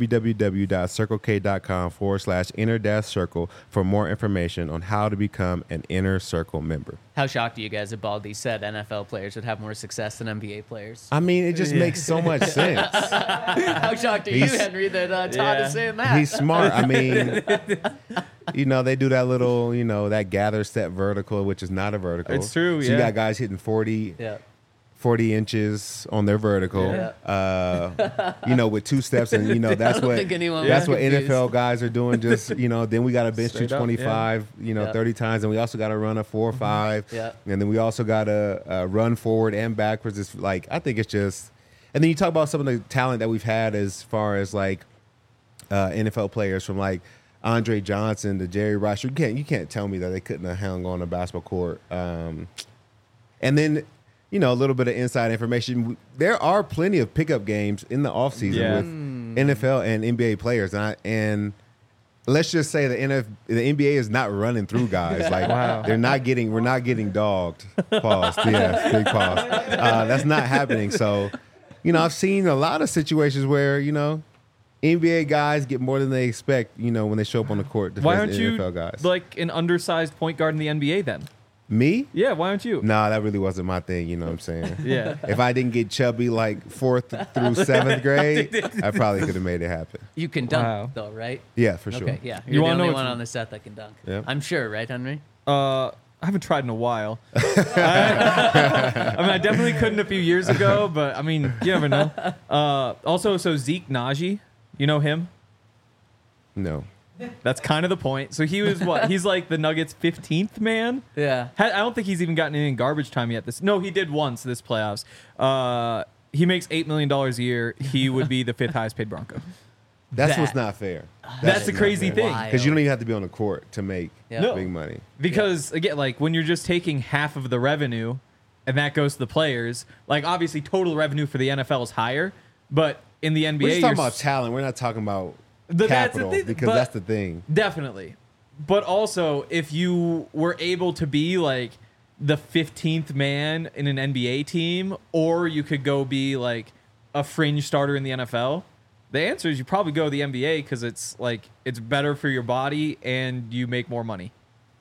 www.circlek.com forward slash inner dash circle for more information on how to become an Inner Circle member. How shocked are you guys that Baldy said N F L players would have more success than N B A players? I mean, it just makes so much sense. How shocked are you, He's- Henry, that uh, Todd Yeah. is saying that? He's smart. I mean, you know, they do that little, you know, that gather step vertical, which is not a vertical. It's true, So you yeah. got guys hitting forty, yeah. forty inches on their vertical, Yeah. uh, you know, with two steps. And, you know, that's don't what think anyone that's was what N F L confused. guys are doing. Just, you know, then we got to bench Straight you up, twenty-five, you know, Yeah. thirty times. And we also got to run a four or five. Yeah. And then we also got to uh, run forward and backwards. It's like, I think it's just, and then you talk about some of the talent that we've had as far as like uh, N F L players, from like Andre Johnson to Jerry Rice. You can't, you can't tell me that they couldn't have hung on a basketball court. Um, and then, you know, a little bit of inside information. There are plenty of pickup games in the offseason Yeah. with N F L and N B A players. And, I, and let's just say the N F, the N B A is not running through guys. Like, Wow. they're not getting, we're not getting dogged. Pause. Yes, big pause. Uh, that's not happening. So, you know, I've seen a lot of situations where, you know, N B A guys get more than they expect, you know, when they show up on the court to Why face aren't the you N F L guys. like an undersized point guard in the N B A then? Me? Yeah, why aren't you? Nah, that really wasn't my thing, you know what I'm saying? Yeah. If I didn't get chubby like fourth through seventh grade, I probably could have made it happen. You can dunk, Wow. though, right? Yeah, for sure. Okay, yeah. You You're the wanna know only what's- one on the set that can dunk. Yeah. I'm sure, right, Henry? Uh, I haven't tried in a while. I, I mean, I definitely couldn't a few years ago, but I mean, you never know. Uh, also, so Zeke Najee, you know him? No. That's kind of the point. So he was what? He's like the Nuggets' fifteenth man. Yeah. Ha- I don't think he's even gotten any in garbage time yet. This no, he did once this playoffs. Uh, he makes eight million dollars a year. He would be the fifth highest paid Bronco. That's That- what's not fair. That's the crazy thing. Because you don't even have to be on the court to make Yeah. No. big money. Because again, like when you're just taking half of the revenue, and that goes to the players. Like obviously, total revenue for the N F L is higher, but in the N B A, We're just talking you're about talent. We're not talking about The- that's the capital, thing, because but- that's the thing. Definitely. But also, if you were able to be like the fifteenth man in an N B A team, or you could go be like a fringe starter in the N F L, The answer is you probably go to the N B A because it's like it's better for your body and you make more money.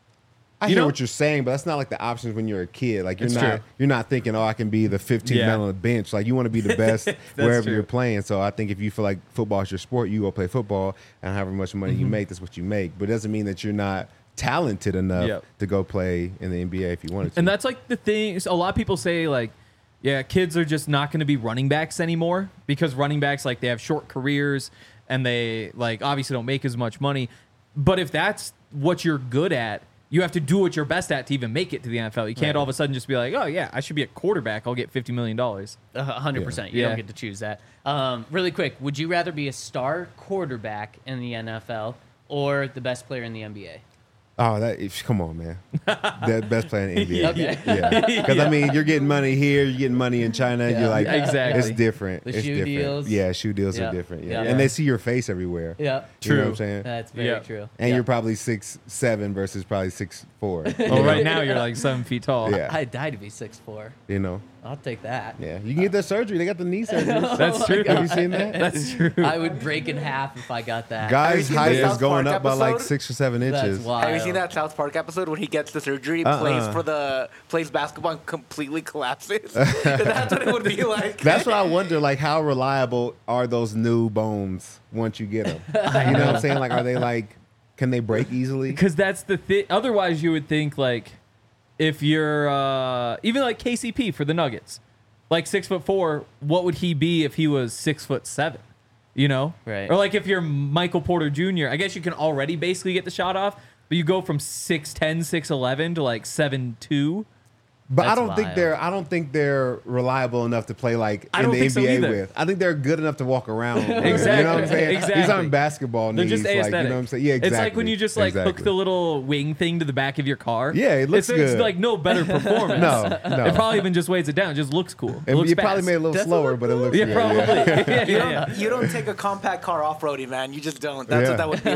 I You hear know- what you're saying, but that's not like the options when you're a kid. Like you're It's not true. you're not thinking, oh, I can be the fifteenth Yeah. man on the bench. Like you want to be the best wherever true. you're playing. So I think if you feel like football is your sport, you go play football, and however much money Mm-hmm. you make, that's what you make. But it doesn't mean that you're not talented enough Yep. to go play in the N B A if you wanted to. And that's like the thing. A lot of people say like, yeah, kids are just not going to be running backs anymore because running backs like they have short careers and they like obviously don't make as much money. But if that's what you're good at, you have to do what you're best at to even make it to the N F L. You can't all of a sudden just be like, oh yeah, I should be a quarterback. I'll get fifty million dollars. A hundred percent. You Yeah. don't get to choose that. Um, really quick, would you rather be a star quarterback in the N F L or the best player in the N B A? Oh, that if- come on, man. The best player in the N B A. Okay. Yeah, because I mean, you're getting money here, you're getting money in China. Yeah. You're like, Exactly. It's different. The it's shoe different. deals. Yeah, shoe deals Yeah. are different. Yeah. Yeah. and they see your face everywhere. Yeah. You know what True. I'm saying? That's very Yeah. true. And Yeah. you're probably six seven versus probably six four. Well, right now you're like seven feet tall. Yeah. I'd die to be six four. You know. I'll take that. Yeah, you can get that surgery. They got the knee surgery. That's true. Have you seen that? That's true. I would break in half if I got that. Have Guy's you seen height the is South going Park up by like episode? six or seven That's inches. wild. Have you seen that South Park episode when he gets the surgery, Uh-uh. plays for the plays basketball, and completely collapses? That's what it would be like. That's what I wonder. Like, how reliable are those new bones once you get them? You know what I'm saying? Like, are they like, can they break easily? Because that's the thing. Otherwise, you would think like if you're uh, even like K C P for the Nuggets, like six foot four, what would he be if he was six foot seven? You know, Right. Or like if you're Michael Porter Junior, I guess you can already basically get the shot off, but you go from six ten, six eleven to like seven two. But I That's don't think wild. they're. I don't think they're reliable enough to play like I in don't the think so N B A either. with. I think they're good enough to walk around. with. Exactly. You know what I'm saying? Exactly. These aren't basketball They're knees. just Like, aesthetic. you know what I'm saying? Yeah, exactly. It's like when you just like exactly. hook the little wing thing to the back of your car. Yeah, it looks it's, It's good. like no better performance. No, no. It probably even just weighs it down. It just looks cool. It And looks you probably fast. made it a little Does it slower, look but it looks Yeah, good. probably. Yeah. Yeah, You yeah, don't, you don't take a compact car off roading, man. You just don't. That's Yeah. what that would be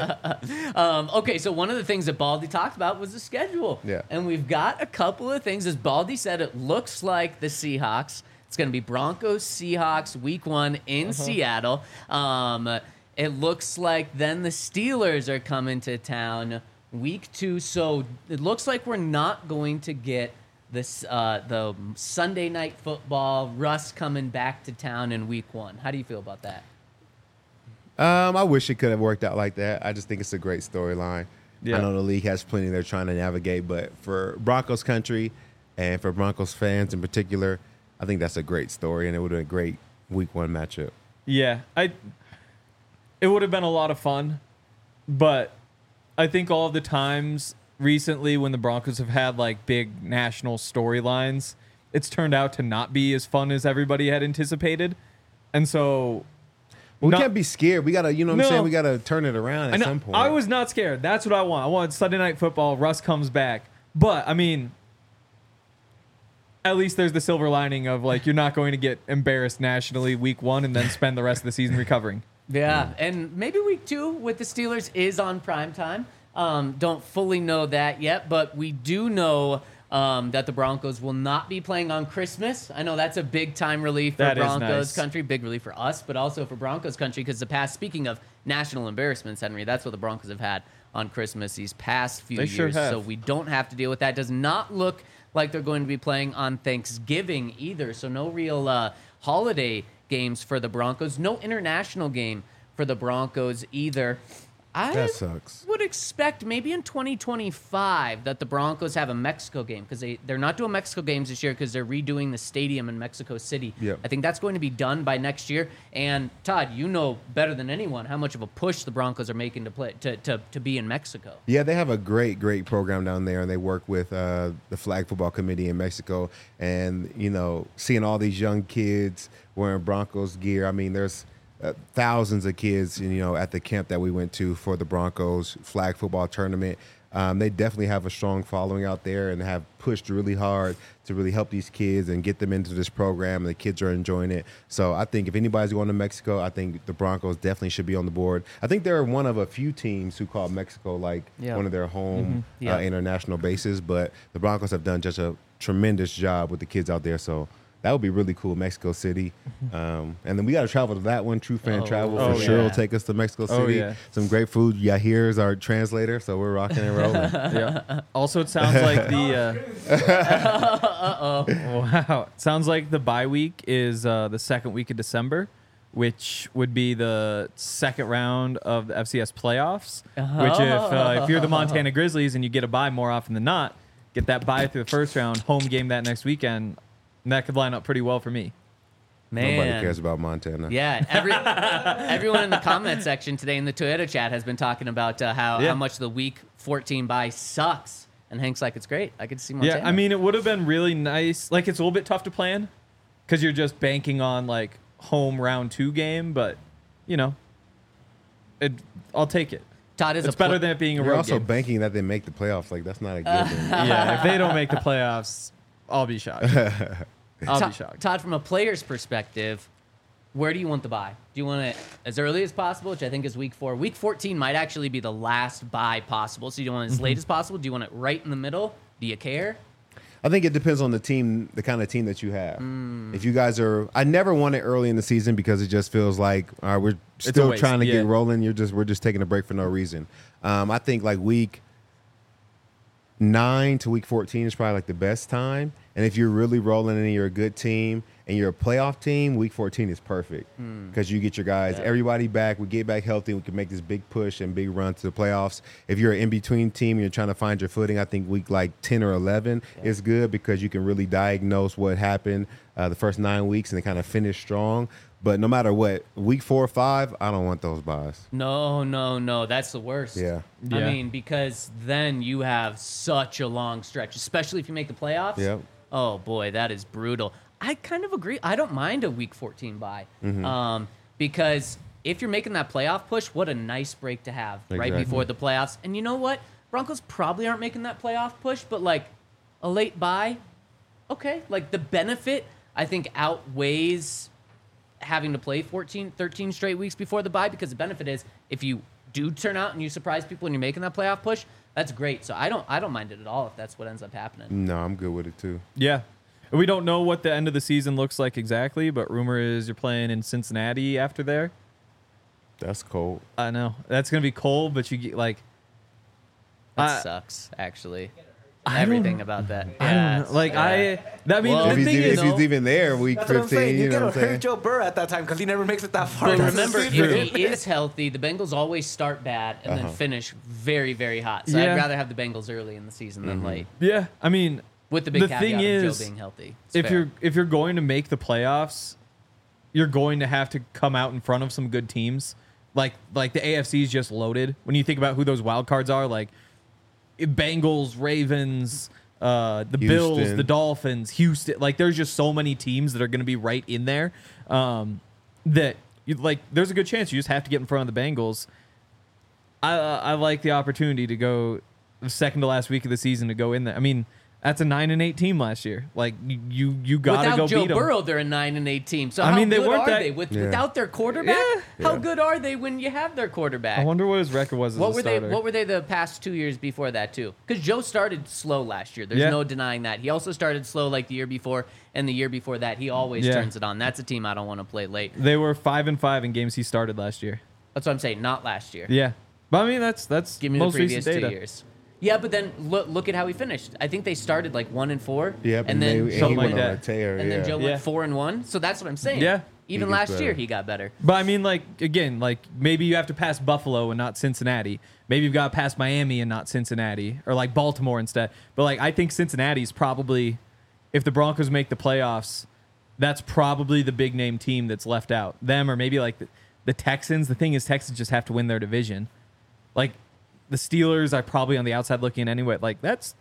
like. Um, okay, so one of the things that Baldy talked about was the schedule. Yeah. And we've got a couple of things. As Baldy said, it looks like the Seahawks. It's going to be Broncos, Seahawks, week one in Seattle. Um, it looks like then the Steelers are coming to town week two. So it looks like we're not going to get this uh, the Sunday night football, Russ coming back to town in week one. How do you feel about that? Um, I wish it could have worked out like that. I just think it's a great storyline. Yeah. I know the league has plenty they're trying to navigate, but for Broncos country and for Broncos fans in particular, I think that's a great story, and it would have been a great week one matchup. Yeah, I. It would have been a lot of fun, but I think all of the times recently when the Broncos have had like big national storylines, it's turned out to not be as fun as everybody had anticipated, and so Well, we not- can't be scared. We gotta, you know what I'm No. saying? We gotta turn it around I, at know- some point. I was not scared. That's what I want. I want Sunday night football. Russ comes back, but I mean, at least there's the silver lining of like you're not going to get embarrassed nationally week one and then spend the rest of the season recovering. Yeah, and maybe week two with the Steelers is on prime time. Um, don't fully know that yet, but we do know um, that the Broncos will not be playing on Christmas. I know that's a big time relief for That is Broncos nice. country, big relief for us, but also for Broncos country because the past, speaking of national embarrassments, Henry, that's what the Broncos have had on Christmas these past few They years. sure have. So we don't have to deal with that. Does not look like they're going to be playing on Thanksgiving either. So no real uh, holiday games for the Broncos. No international game for the Broncos either. I That sucks. would expect maybe in twenty twenty-five that the Broncos have a Mexico game because they, they're not doing Mexico games this year because they're redoing the stadium in Mexico City. Yep. I think that's going to be done by next year. And Todd, you know better than anyone how much of a push the Broncos are making to play to, to, to be in Mexico. Yeah, they have a great, great program down there, and they work with uh, the Flag Football Committee in Mexico. And, you know, seeing all these young kids wearing Broncos gear, I mean, there's uh, thousands of kids, you know, at the camp that we went to for the Broncos Flag Football Tournament. Um, they definitely have a strong following out there and have pushed really hard to really help these kids and get them into this program. And the kids are enjoying it. So I think if anybody's going to Mexico, I think the Broncos definitely should be on the board. I think they're one of a few teams who call Mexico like Yeah. one of their home Yeah. uh, international bases. But the Broncos have done just a tremendous job with the kids out there. So that would be really cool. Mexico City, um, and then we got to travel to that one. True fan Oh, travel for oh, sure. yeah. Will take us to Mexico Oh, City. yeah. Some great food. Yahir is our translator, so we're rocking and rolling. Yeah. Also, it sounds like the. Uh, wow. It sounds like the bye week is uh, the second week of December, which would be the second round of the F C S playoffs. Which, if uh, if you're the Montana Grizzlies and you get a bye more often than not, get that bye through the first round, home game that next weekend, and that could line up pretty well for me. Man. Nobody cares about Montana. Yeah, every, everyone in the comment section today in the Toyota chat has been talking about uh, how, Yeah. how much the week fourteen bye sucks. And Hank's like, it's great. I could see Montana. Yeah, I mean, it would have been really nice. Like, it's a little bit tough to plan because you're just banking on, like, home round two game, but, you know, it, I'll take it. Todd is It's a better pl- than it being a You're road also game. banking that they make the playoffs. Like that's not a given. Yeah, if they don't make the playoffs, I'll be shocked. I'll Todd, be shocked. Todd, from a player's perspective, where do you want the bye? Do you want it as early as possible, which I think is week four? Week fourteen might actually be the last bye possible. So you don't want it as late as possible? Do you want it right in the middle? Do you care? I think it depends on the team, the kind of team that you have. If you guys are, I never want it early in the season because it just feels like all right, we're a still waste, trying to yeah. get rolling. You're just we're just taking a break for no reason. Um, I think like week nine to week fourteen is probably like the best time. And if you're really rolling and you're a good team and you're a playoff team, week fourteen is perfect because you get your guys, Yeah. everybody back. We get back healthy. We can make this big push and big run to the playoffs. If you're an in-between team and you're trying to find your footing, I think week like ten or eleven is good because you can really diagnose what happened uh, the first nine weeks and then kind of finish strong. But no matter what, week four or five, I don't want those buys. No, no, no. That's the worst. Yeah. I Yeah. mean, because then you have such a long stretch, especially if you make the playoffs. Yep. Oh, boy, that is brutal. I kind of agree. I don't mind a week fourteen bye. Mm-hmm. Um, because if you're making that playoff push, what a nice break to have right Exactly. before the playoffs. And you know what? Broncos probably aren't making that playoff push, but like a late bye, okay. Like the benefit, I think, outweighs having to play fourteen, thirteen straight weeks before the bye, because the benefit is if you do turn out and you surprise people and you're making that playoff push, that's great. So I don't I don't mind it at all if that's what ends up happening. No, I'm good with it too. Yeah. We don't know what the end of the season looks like exactly, but rumor is you're playing in Cincinnati after there. That's cold. I know. That's going to be cold, but you get like That I- sucks, actually. I Everything don't- about that. I Yeah, don't know. Like yeah. I that mean Well, the If he's, thing even, is if he's even there week That's what I'm saying. fifteen, You you know gotta what I'm saying? hurt Joe Burrow at that time because he never makes it that far. But That's remember, the if secret. he is healthy, the Bengals always start bad and then Uh-huh. finish very, very hot. So Yeah. I'd rather have the Bengals early in the season than late. yeah, I mean With the big The caveat thing of is, Joe being healthy. It's if fair. you're if you're going to make the playoffs, you're going to have to come out in front of some good teams. Like like the A F C is just loaded. When you think about who those wild cards are, like Bengals, Ravens, uh, the Bills, Houston. the Dolphins, Houston. Like there's just so many teams that are going to be right in there. Um, that you like. There's a good chance you just have to get in front of the Bengals. I uh, I like the opportunity to go the second to last week of the season to go in there. I mean, that's a nine and eight team last year. Like you you, you got to without go Joe beat them. Burrow, they're a nine and eight team. So I how mean, they good weren't are that- they with, Yeah. without their quarterback? Yeah. How Yeah. good are they when you have their quarterback? I wonder what his record was as what a were they? starter. What were they the past two years before that too? Because Joe started slow last year. There's Yeah. no denying that. He also started slow like the year before, and the year before that, he always Yeah. turns it on. That's a team I don't want to play late. They were five and five in games he started last year. That's what I'm saying. Not last year. Yeah, but I mean that's that's Give me the most previous recent two data. years. Yeah, but then look look at how he finished. I think they started like one and four. Yep, and then they, Joe and he something went like on that. a tear. and yeah. then Joe Yeah. went four and one. So that's what I'm saying. Yeah. Even He gets last year better. he got better. But I mean, like again, like maybe you have to pass Buffalo and not Cincinnati. Maybe you've got to pass Miami and not Cincinnati, or like Baltimore instead. But like I think Cincinnati's probably, if the Broncos make the playoffs, that's probably the big name team that's left out. Them or maybe like the, the Texans. The thing is, Texans just have to win their division. Like the Steelers are probably on the outside looking in anyway. Like that's,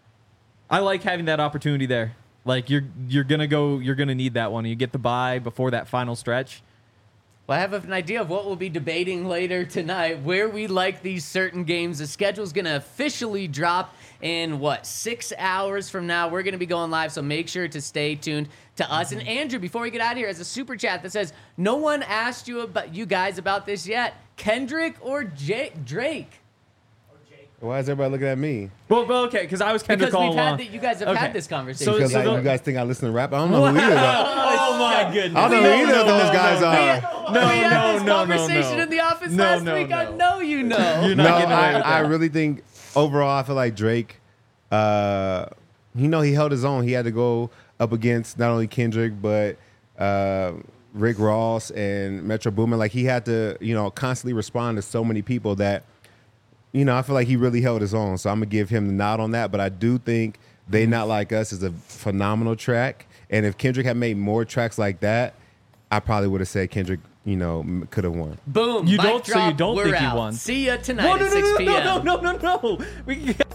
I like having that opportunity there. Like you're you're gonna go, you're gonna need that one. You get the bye before that final stretch. Well, I have an idea of what we'll be debating later tonight, where we like these certain games. The schedule's going to officially drop in, what, six hours from now. We're going to be going live, so make sure to stay tuned to us. And Andrew, before we get out of here, has a super chat that says, no one asked you about you guys about this yet. Kendrick or Jake, Drake? Why is everybody looking at me? Well, well okay, because I was Kendrick Because all we've along. had the, you guys have Okay. had this conversation. So- Because so like, the- you guys think I listen to rap? I don't know who either. Though. Oh my goodness! I don't know who either of those guys we, are. No, we had no, this no, no, conversation no. in the office No, last no, week. no. I know you know. You're No, not getting away I, with I that. really think overall, I feel like Drake. Uh, you know, he held his own. He had to go up against not only Kendrick but uh, Rick Ross and Metro Boomin. Like he had to, you know, constantly respond to so many people that, you know, I feel like he really held his own. So I'm gonna give him the nod on that. But I do think They Not Like Us is a phenomenal track. And if Kendrick had made more tracks like that, I probably would have said Kendrick, you know, could have won. Boom. You mic don't- so you drop, don't we're think he out. won? See ya tonight No, no, at no, six no, p.m. no, no, no, no, no. We